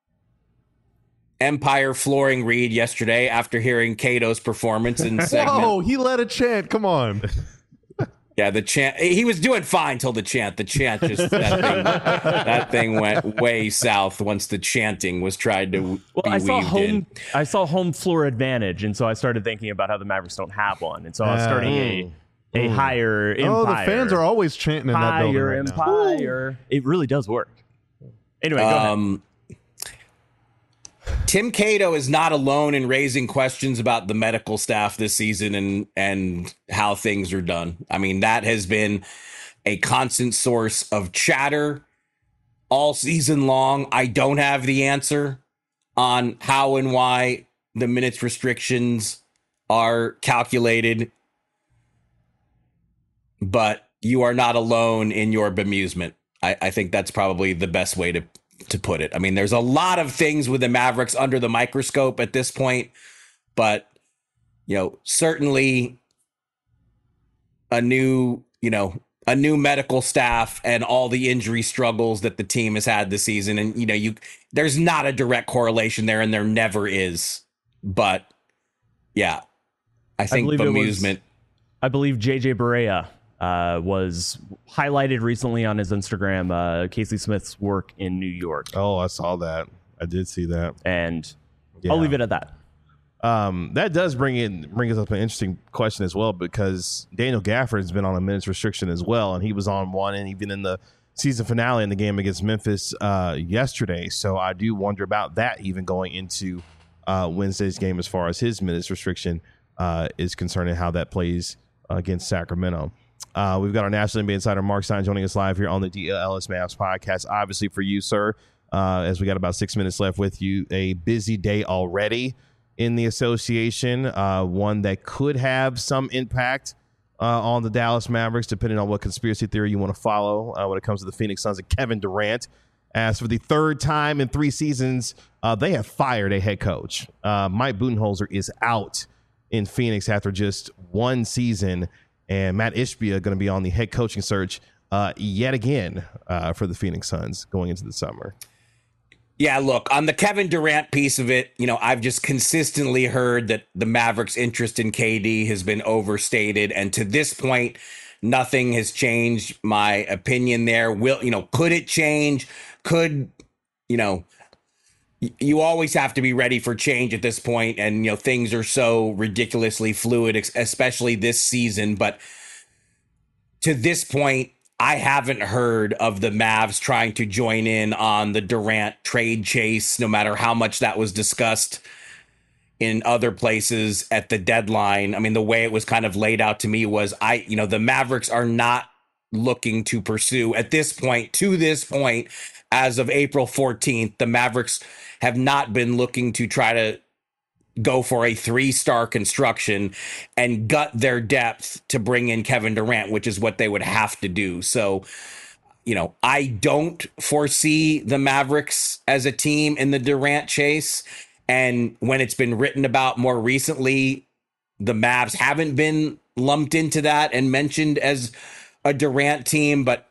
Empire flooring read yesterday after hearing Cato's performance in segment. Oh, he led a chant. Come on. Yeah, the chant. He was doing fine till the chant. The chant just that thing went way south once the chanting was tried to be weaved in. I saw home floor advantage, and so I started thinking about how the Mavericks don't have one, and so I was starting a higher Empire. Oh, the fans are always chanting in that building right Empire. Now. It really does work. Anyway, go ahead. Tim Cato is not alone in raising questions about the medical staff this season and how things are done. I mean, that has been a constant source of chatter all season long. I don't have the answer on how and why the minutes restrictions are calculated, but you are not alone in your bemusement. I think that's probably the best way to put it. I mean, there's a lot of things with the Mavericks under the microscope at this point, but certainly a new medical staff and all the injury struggles that the team has had this season. And, there's not a direct correlation there, and there never is. But yeah, I think bemusement. I believe JJ Barea was highlighted recently on his Instagram, Casey Smith's work in New York. Oh, I saw that. I did see that. And I'll leave it at that. That does bring us up an interesting question as well, because Daniel Gafford has been on a minutes restriction as well, and he was on one, and even in the season finale in the game against Memphis yesterday. So I do wonder about that even going into Wednesday's game as far as his minutes restriction is concerned and how that plays against Sacramento. We've got our National NBA Insider Mark Stein joining us live here on the DLS Mavs podcast. Obviously for you, sir, as we got about 6 minutes left with you, a busy day already in the association, one that could have some impact on the Dallas Mavericks, depending on what conspiracy theory you want to follow when it comes to the Phoenix Suns and Kevin Durant. As for the third time in 3 seasons, they have fired a head coach. Mike Budenholzer is out in Phoenix after just 1 season. And Matt Ishbia going to be on the head coaching search yet again for the Phoenix Suns going into the summer. Yeah, look, on the Kevin Durant piece of it, I've just consistently heard that the Mavericks' interest in KD has been overstated. And to this point, nothing has changed my opinion there. Could it change? could, you always have to be ready for change at this point, and things are so ridiculously fluid, especially this season. But to this point, I haven't heard of the Mavs trying to join in on the Durant trade chase, no matter how much that was discussed in other places at the deadline. I mean, the way it was kind of laid out to me was the Mavericks are not looking to pursue to this point, as of April 14th, the Mavericks have not been looking to try to go for a 3-star construction and gut their depth to bring in Kevin Durant, which is what they would have to do. So, I don't foresee the Mavericks as a team in the Durant chase. And when it's been written about more recently, the Mavs haven't been lumped into that and mentioned as a Durant team. But,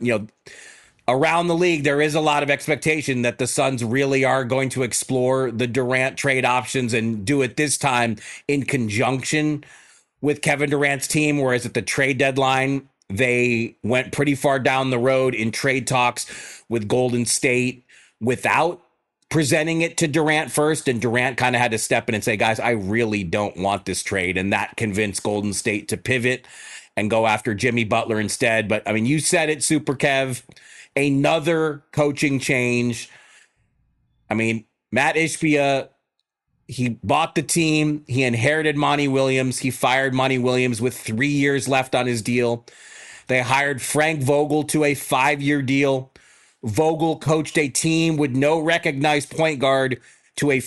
around the league, there is a lot of expectation that the Suns really are going to explore the Durant trade options and do it this time in conjunction with Kevin Durant's team, whereas at the trade deadline, they went pretty far down the road in trade talks with Golden State without presenting it to Durant first, and Durant kind of had to step in and say, guys, I really don't want this trade, and that convinced Golden State to pivot and go after Jimmy Butler instead. But, I mean, you said it, Super Kev. Another coaching change. I mean, Matt Ishbia, he bought the team. He inherited Monty Williams. He fired Monty Williams with 3 years left on his deal. They hired Frank Vogel to a 5-year deal. Vogel coached a team with no recognized point guard to a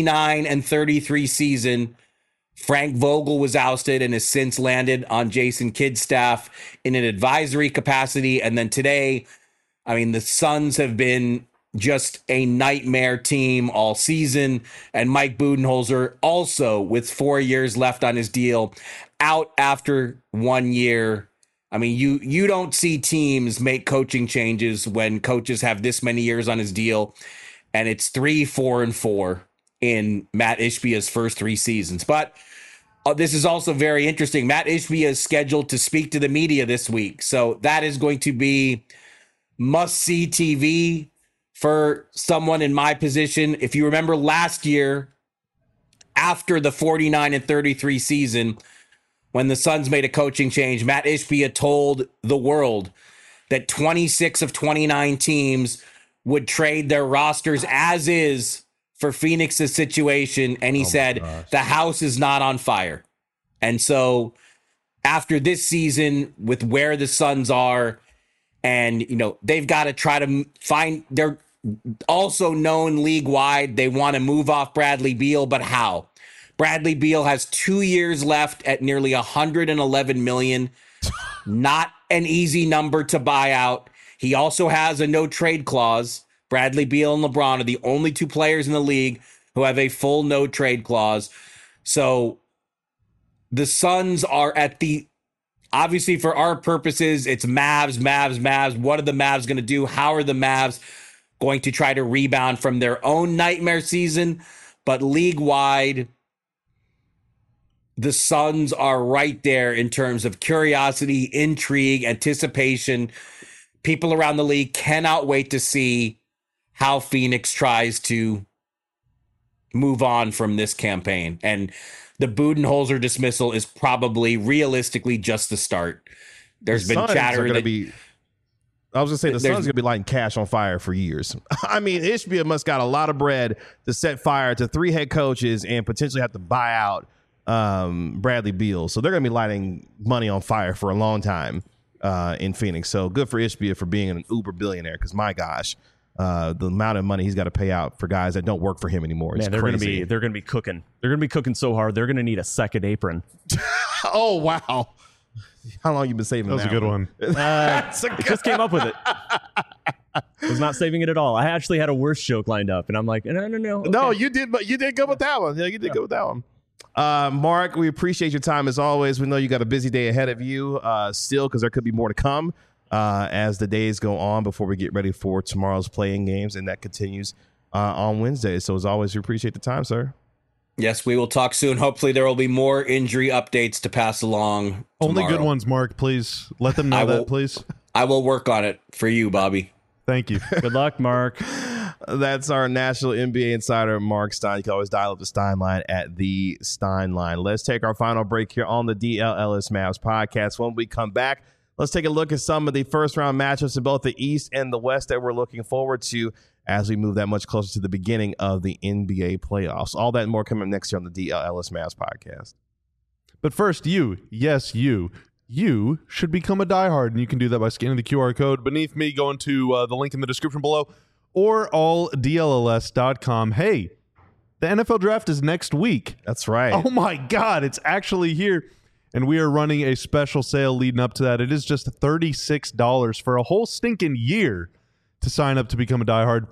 49-33 season. Frank Vogel was ousted and has since landed on Jason Kidd's staff in an advisory capacity. And then today, I mean, the Suns have been just a nightmare team all season. And Mike Budenholzer, also with 4 years left on his deal, out after 1 year. I mean, you don't see teams make coaching changes when coaches have this many years on his deal. And it's 3, 4, and 4 in Matt Ishbia's first 3 seasons. But this is also very interesting. Matt Ishbia is scheduled to speak to the media this week. So that is going to be must-see TV for someone in my position. If you remember last year, after the 49-33 season, when the Suns made a coaching change, Matt Ishbia told the world that 26 of 29 teams would trade their rosters as is for Phoenix's situation. And he said, the house is not on fire. And so after this season, with where the Suns are, and, they've got to try to find, they're also known league-wide, they want to move off Bradley Beal, but how? Bradley Beal has 2 years left at nearly $111 million. Not an easy number to buy out. He also has a no-trade clause. Bradley Beal and LeBron are the only 2 players in the league who have a full no-trade clause. So the Suns are at the, obviously for our purposes, it's Mavs. What are the Mavs going to do? How are the Mavs going to try to rebound from their own nightmare season? But league-wide, the Suns are right there in terms of curiosity, intrigue, anticipation. People around the league cannot wait to see how Phoenix tries to move on from this campaign. And the Budenholzer dismissal is probably realistically just the start. There's been chatter that I was going to say the Suns are going to be lighting cash on fire for years. I mean, Ishbia must got a lot of bread to set fire to 3 head coaches and potentially have to buy out Bradley Beal. So they're going to be lighting money on fire for a long time in Phoenix. So good for Ishbia for being an uber billionaire, because my gosh, the amount of money he's got to pay out for guys that don't work for him anymore. It's crazy. They're going to be cooking. They're going to be cooking so hard. They're going to need a second apron. Oh, wow. How long you been saving that? That was a good one. Just came up with it. I was not saving it at all. I actually had a worse joke lined up, and I'm like, no. Okay. No, you did, but you did good with that one. Yeah, you did good with that one. Mark, we appreciate your time as always. We know you got a busy day ahead of you still, because there could be more to come as the days go on before we get ready for tomorrow's playing games, and that continues on Wednesday. So as always, we appreciate the time, sir. Yes, we will talk soon. Hopefully there will be more injury updates to pass along tomorrow. Only good ones, Mark. Please let them know that, please. I will work on it for you, Bobby. Thank you. Good luck, Mark. That's our national NBA insider, Mark Stein. You can always dial up the Stein line at the Stein line. Let's take our final break here on the DLLS Mavs podcast. When we come back, let's take a look at some of the first-round matchups in both the East and the West that we're looking forward to as we move that much closer to the beginning of the NBA playoffs. All that and more coming up next year on the DLLS Mavs podcast. But first, you should become a diehard, and you can do that by scanning the QR code beneath me, going to the link in the description below, or alldlls.com. Hey, the NFL draft is next week. That's right. Oh my God, it's actually here. And we are running a special sale leading up to that. It is just $36 for a whole stinking year to sign up to become a diehard.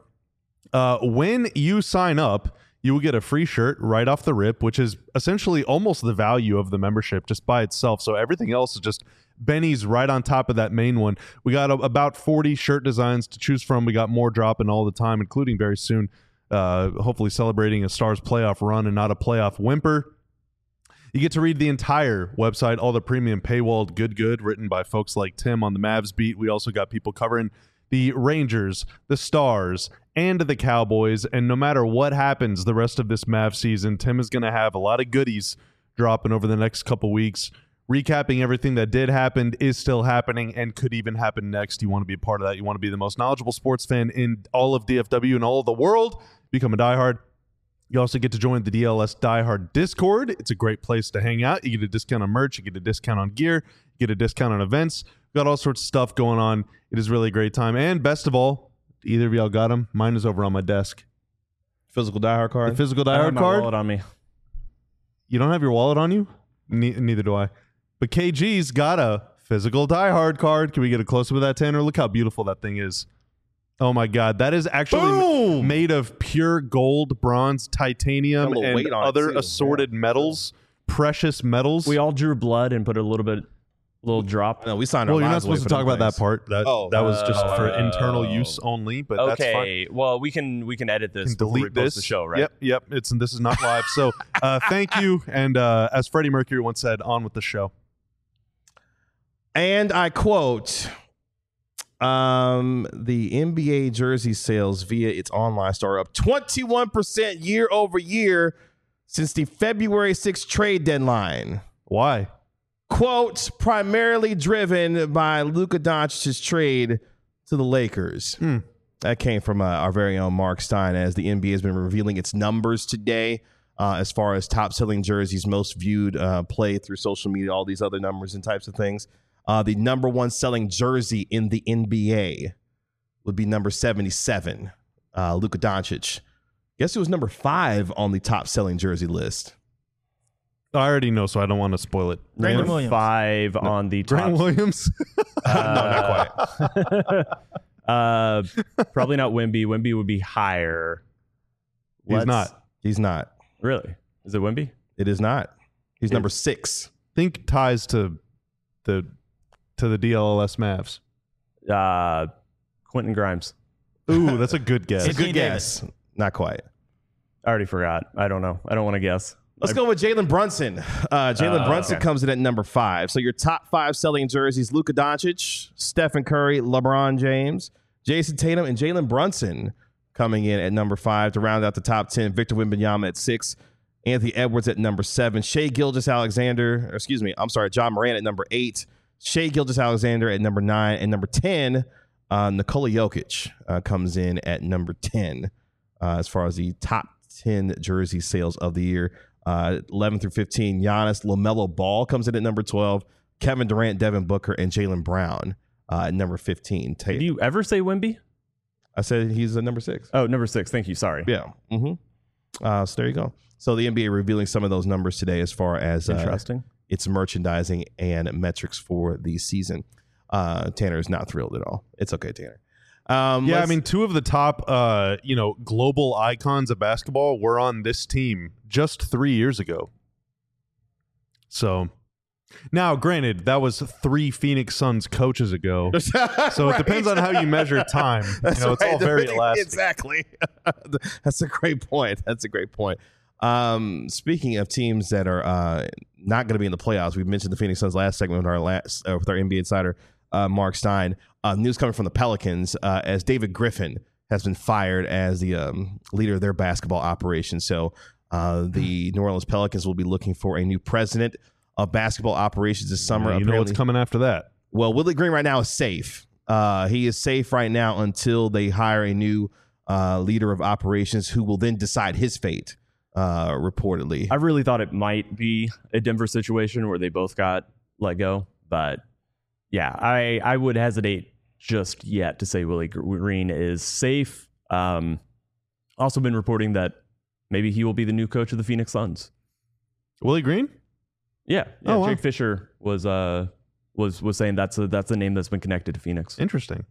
When you sign up, you will get a free shirt right off the rip, which is essentially almost the value of the membership just by itself. So everything else is just Benny's right on top of that main one. We got about 40 shirt designs to choose from. We got more dropping all the time, including very soon, hopefully celebrating a Stars playoff run and not a playoff whimper. You get to read the entire website, all the premium paywalled good, written by folks like Tim on the Mavs beat. We also got people covering the Rangers, the Stars, and the Cowboys. And no matter what happens the rest of this Mavs season, Tim is going to have a lot of goodies dropping over the next couple weeks, recapping everything that did happen, is still happening, and could even happen next. You want to be a part of that. You want to be the most knowledgeable sports fan in all of DFW and all of the world. Become a diehard. You also get to join the DLS Diehard Discord. It's a great place to hang out. You get a discount on merch. You get a discount on gear. You get a discount on events. We've got all sorts of stuff going on. It is really a great time. And best of all, either of y'all got them? Mine is over on my desk. Physical diehard card? The physical I have diehard my card? wallet on me. You don't have your wallet on you? Neither do I. But KG's got a physical diehard card. Can we get a close-up of that, Tanner? Look how beautiful that thing is. Oh my God, that is actually made of pure gold, bronze, titanium, and other assorted metals, precious metals. We all drew blood and put a little drop. No, we signed our Well, you're not lives supposed away to for talk them about that things. part. That was just for internal use only, but that's fine. Okay, well, we can edit this Can before we delete post this. the show, right? Yep. This is not live. So thank you. And as Freddie Mercury once said, on with the show. And I quote, the NBA jersey sales via its online store are up 21% year over year since the February 6th trade deadline. Why? Quote, primarily driven by Luka Doncic's trade to the Lakers. That came from our very own Mark Stein, as the NBA has been revealing its numbers today as far as top-selling jerseys, most viewed play through social media, all these other numbers and types of things. The number one selling jersey in the NBA would be number 77, Luka Doncic. Guess it was number 5 on the top-selling jersey list. I already know, so I don't want to spoil it. Brandon Number Williams. 5 on the top. Grant Williams? No, not quite. Probably not Wemby. Wemby would be higher. He's not. He's not. Really? Is it Wemby? It is not. He's number 6. Think ties to the DLLS Mavs. Quentin Grimes. Ooh, that's a good guess. It's a good Anthony guess. Not quite. I already forgot. I don't know. I don't want to guess. Let's go with Jalen Brunson. Jalen Brunson comes in at number 5. So your top 5 selling jerseys: Luka Doncic, Stephen Curry, LeBron James, Jason Tatum, and Jalen Brunson coming in at number 5 to round out the top 10. Victor Wembanyama at 6. Anthony Edwards at number 7. John Moran at number 8. Shai Gilgeous-Alexander at number 9. And number 10, Nikola Jokic comes in at number 10 as far as the top 10 jersey sales of the year. 11 through 15, Giannis, LaMelo Ball comes in at number 12. Kevin Durant, Devin Booker, and Jaylen Brown at number 15. Did you ever say Wemby? I said he's at number 6. Oh, number 6. Thank you. Sorry. Yeah. So there you go. So the NBA revealing some of those numbers today as far as Interesting. its merchandising and metrics for the season. Tanner is not thrilled at all. It's okay, Tanner. I mean, 2 of the top, global icons of basketball were on this team just 3 years ago. So, now, granted, that was 3 Phoenix Suns coaches ago. So it depends on how you measure time. It's all very elastic. Exactly. That's a great point. Speaking of teams that are not going to be in the playoffs, we mentioned the Phoenix Suns last segment with our NBA Insider. Mark Stein. News coming from the Pelicans as David Griffin has been fired as the leader of their basketball operation. So the New Orleans Pelicans will be looking for a new president of basketball operations this summer. You know what's coming after that. Well, Willie Green right now is safe. He is safe right now until they hire a new leader of operations who will then decide his fate, reportedly. I really thought it might be a Denver situation where they both got let go. But yeah, I would hesitate just yet to say Willie Green is safe. Also been reporting that maybe he will be the new coach of the Phoenix Suns. Willie Green? Yeah. Oh, wow. Jake Fisher was saying that's a name that's been connected to Phoenix. Interesting.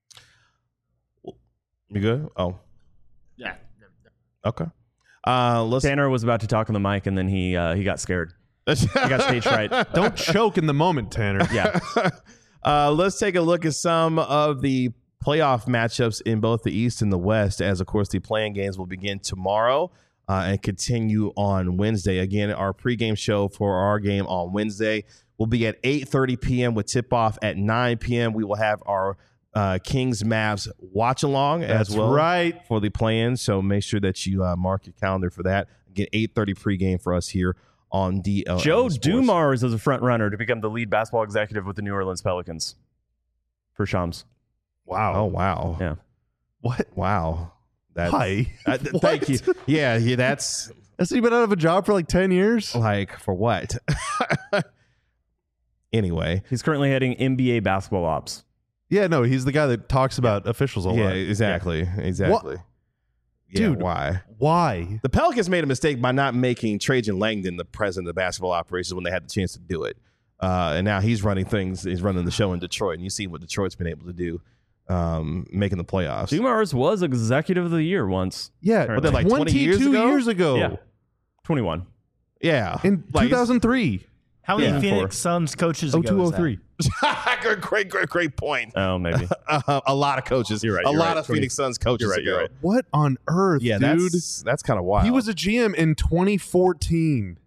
You good? Oh, Yeah. okay. Tanner was about to talk on the mic and then he got scared. He got stage fright. Don't choke in the moment, Tanner. Yeah. Let's take a look at some of the playoff matchups in both the East and the West, as, of course, the playing games will begin tomorrow and continue on Wednesday. Again, our pregame show for our game on Wednesday will be at 8:30 p.m. with tip-off at 9 p.m. We will have our Kings-Mavs watch-along as well for the play-in, so make sure that you mark your calendar for that. Again, 8:30 pregame for us here on DL. Joe Dumars is a front runner to become the lead basketball executive with the New Orleans Pelicans for Shams. Wow. Oh, wow. Yeah. What? Wow. Why? Thank you. Yeah, that's Has he been out of a job for like 10 years? like, for what? Anyway. He's currently heading NBA basketball ops. Yeah, no, he's the guy that talks about officials a lot. Yeah, exactly. Exactly. What? Yeah, Dude, why? Why? The Pelicans made a mistake by not making Trajan Langdon the president of basketball operations when they had the chance to do it. And now he's running things. He's running the show in Detroit, and you see what Detroit's been able to do, making the playoffs. Dumars was executive of the year once. Yeah, But they're like 20 years 22 ago? years ago. Yeah. 21. Yeah. In Like, 2003. How many Yeah. Phoenix Suns coaches ago was that? 0203. great point. Oh, maybe. A lot of coaches. You're right, A you're lot right. of Phoenix Suns coaches You're right, ago. you're right. What on earth, Yeah, dude? that's kind of wild. He was a GM in 2014.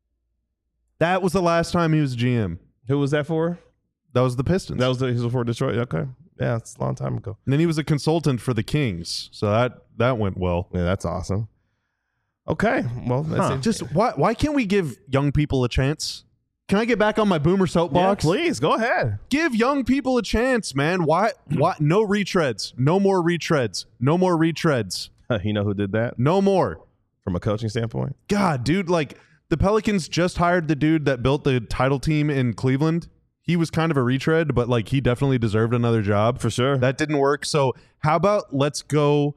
That was the last time he was a GM. Who was that for? That was the Pistons. He was for Detroit. Okay. Yeah, it's a long time ago. And then he was a consultant for the Kings. So that went well. Yeah, that's awesome. Okay. Well, that's it. Just why can't we give young people a chance? Can I get back on my boomer Yeah, soapbox? please go ahead. Give young people a chance, man. Why no retreads. No more retreads. No more retreads. You know who did that No more. from a coaching standpoint? God, dude, like the Pelicans just hired the dude that built the title team in Cleveland. He was kind of a retread, but like he definitely deserved another job. For sure. That didn't work. So how about let's go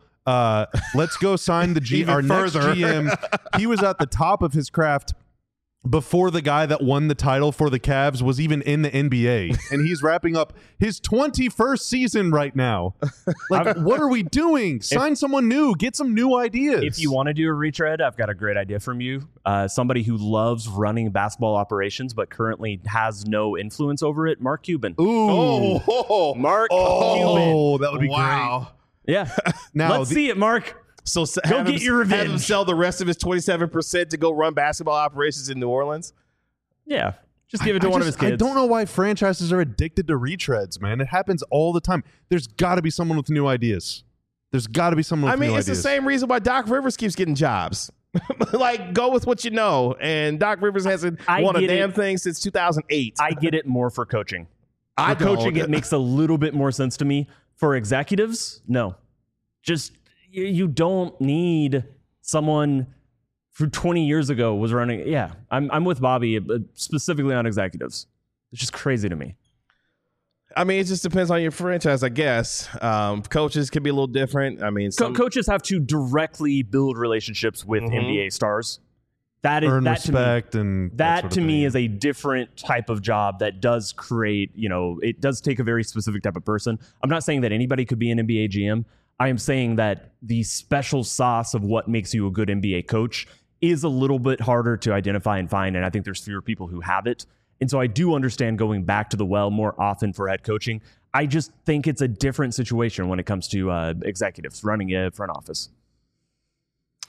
sign the Even our next further. GM. He was at the top of his craft before the guy that won the title for the Cavs was even in the NBA. And he's wrapping up his 21st season right now. Like, what are we doing? Sign someone new. Get some new ideas. If you want to do a retread, I've got a great idea from you. Somebody who loves running basketball operations but currently has no influence over it, Mark Cuban. Ooh. Mark Cuban. Oh, that would be wow. Yeah. Now, Let's see it, Mark. So Go get your Have him revenge. sell the rest of his 27% to go run basketball operations in New Orleans. Yeah. Just give it to one of his kids. I don't know why franchises are addicted to retreads, man. It happens all the time. There's got to be someone with new ideas. There's got to be someone with new It's ideas. the same reason why Doc Rivers keeps getting jobs. Like, go with what you know. And Doc Rivers hasn't I won a get damn it. thing since 2008. I get it more for coaching. I For coaching, don't. it makes a little bit more sense to me. For executives, no. Just you don't need someone who 20 years ago was running. Yeah, I'm with Bobby specifically on executives. It's just crazy to me. I mean, it just depends on your franchise, I guess. Coaches can be a little different. I mean, Coaches have to directly build relationships with NBA stars. That is Earn that to me. respect and That sort to of me thing. is a different type of job that does create, it does take a very specific type of person. I'm not saying that anybody could be an NBA GM. I am saying that the special sauce of what makes you a good NBA coach is a little bit harder to identify and find, and I think there's fewer people who have it. And so I do understand going back to the well more often for head coaching. I just think it's a different situation when it comes to executives running a front office.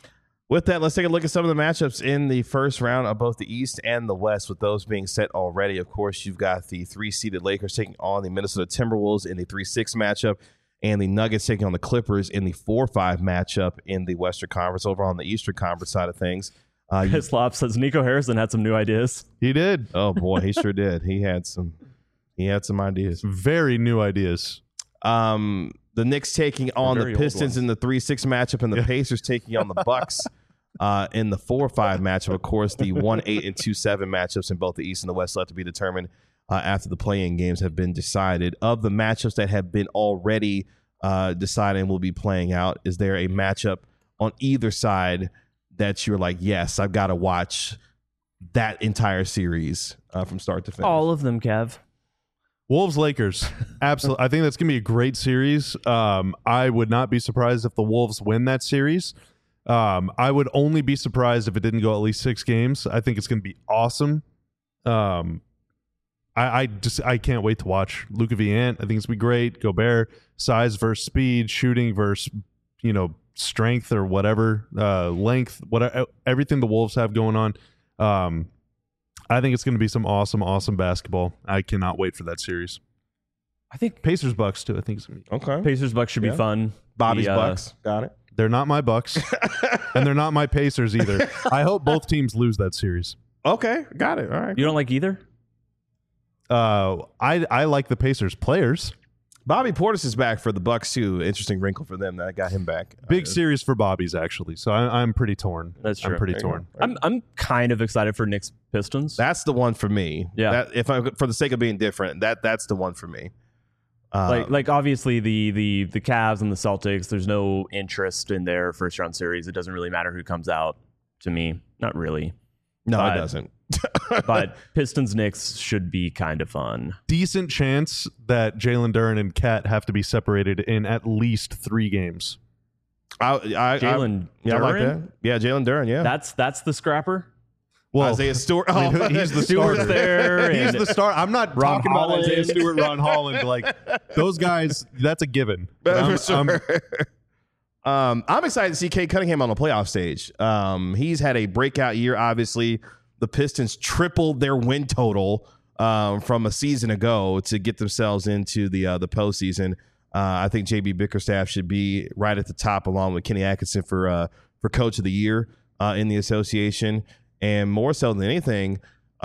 With that, let's take a look at some of the matchups in the first round of both the East and the West. With those being set already, of course, you've got the 3-seeded Lakers taking on the Minnesota Timberwolves in the 3-6 matchup, and the Nuggets taking on the Clippers in the 4-5 matchup in the Western Conference. Over on the Eastern Conference side of things, Slop says Nico Harrison had some new ideas. He did. Oh boy, he sure did. He had some ideas. Very new ideas. The Knicks taking on the Pistons in the 3-6 matchup, and the Pacers taking on the Bucks in the 4-5 matchup. Of course, the 1-8 and 2-7 matchups in both the East and the West left to be determined after the play-in games have been decided. Of the matchups that have been already decided and will be playing out, is there a matchup on either side that you're like, yes, I've got to watch that entire series from start to finish? All of them, Kev. Wolves Lakers. Absolutely. I think that's going to be a great series. I would not be surprised if the Wolves win that series. I would only be surprised if it didn't go at least 6 games. I think it's going to be awesome. I can't wait to watch Luka v. Ant. I think it's going to be great. Gobert, size versus speed, shooting versus, strength or whatever, length, whatever, everything the Wolves have going on. I think it's going to be some awesome basketball. I cannot wait for that series. I think Pacers Bucks too. I think it's going to be okay. Pacers Bucks should be fun. Bobby's Bucks. Got it. They're not my Bucks, and they're not my Pacers either. I hope both teams lose that series. Okay, got it. All right. You don't like either? I like the Pacers players. Bobby Portis is back for the Bucks too. Interesting wrinkle for them that got him back. Big series for Bobby's actually. So I'm pretty torn. That's true. I'm pretty torn. I'm kind of excited for Knicks Pistons. That's the one for me. Yeah. For the sake of being different, that's the one for me. Like obviously the Cavs and the Celtics, there's no interest in their first round series. It doesn't really matter who comes out to me. Not really. No, it doesn't. But Pistons Knicks should be kind of fun. Decent chance that Jalen Duren and Cat have to be separated in at least 3 games. Jalen Duren? I like that. Yeah, Jalen Duren, yeah. That's the scrapper? Well, Isaiah Stewart. I mean, he's the starter. there. He's the star. I'm not Ron talking Holland. about Isaiah Stewart, Ron Holland. Like those guys, that's a given. For sure. I'm excited to see Cade Cunningham on the playoff stage. He's had a breakout year. Obviously, the Pistons tripled their win total from a season ago to get themselves into the postseason. I think JB Bickerstaff should be right at the top, along with Kenny Atkinson for Coach of the Year in the association. And more so than anything,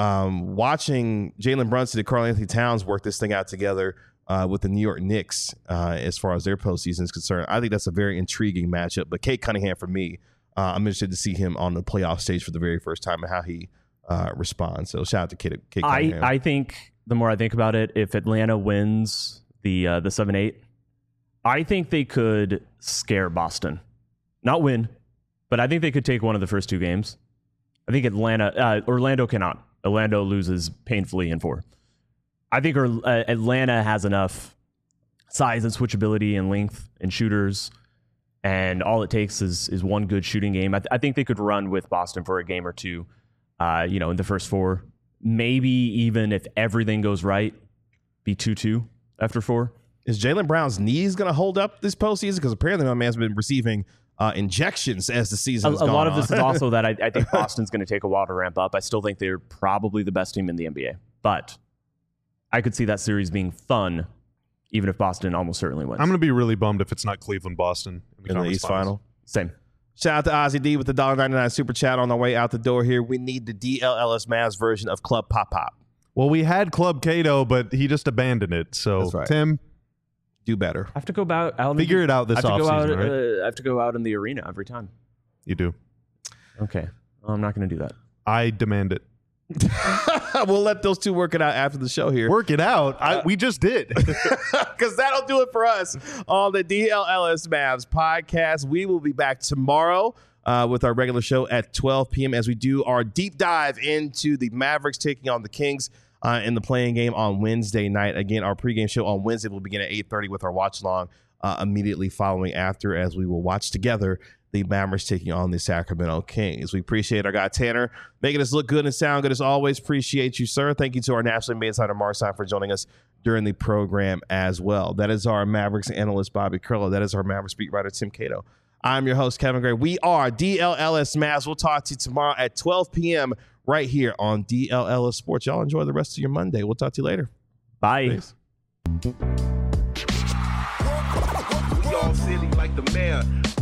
watching Jalen Brunson and Karl Anthony Towns work this thing out together with the New York Knicks as far as their postseason is concerned, I think that's a very intriguing matchup. But Cade Cunningham, for me, I'm interested to see him on the playoff stage for the very first time and how he responds. So shout out to Cade Cunningham. I think the more I think about it, if Atlanta wins the 7-8, I think they could scare Boston. Not win, but I think they could take one of the first 2 games. I think Orlando cannot. Orlando loses painfully in 4. I think Atlanta has enough size and switchability and length and shooters, and all it takes is one good shooting game. I think they could run with Boston for a game or 2, in the first 4. Maybe even if everything goes right, be 2-2 after 4. Is Jaylen Brown's knees going to hold up this postseason? Because apparently my man's been receiving injections as the season has gone on. A lot of this is also that I think Boston's going to take a while to ramp up. I still think they're probably the best team in the NBA. But I could see that series being fun, even if Boston almost certainly wins. I'm going to be really bummed if it's not Cleveland-Boston in the East Final. Same. Shout out to Ozzy D with the $1.99 super chat on our way out the door here. We need the DLLS Mavs version of Club Pop Pop. Well, we had Club Cato, but he just abandoned it. So, that's right. Tim, do better. I have to go out. Figure it out this offseason, right? I have to go out in the arena every time. You do. Okay. Well, I'm not going to do that. I demand it. We'll let those two work it out after the show here. Work it out? We just did. Because that'll do it for us on the DLLS Mavs podcast. We will be back tomorrow with our regular show at 12 p.m. as we do our deep dive into the Mavericks taking on the Kings in the playing game on Wednesday night. Again, our pregame show on Wednesday will begin at 8:30 with our watch along immediately following after, as we will watch together the Mavericks taking on the Sacramento Kings. We appreciate our guy Tanner making us look good and sound good as always. Appreciate you, sir. Thank you to our nationally made insider Marcin for joining us during the program as well. That is our Mavericks analyst Bobby Curlo. That is our Mavericks beat writer Tim Cato. I'm your host, Kevin Gray. We are DLLS Mavs. We'll talk to you tomorrow at 12 p.m. right here on DLLS Sports. Y'all enjoy the rest of your Monday. We'll talk to you later. Bye. Peace. We all silly like the mayor.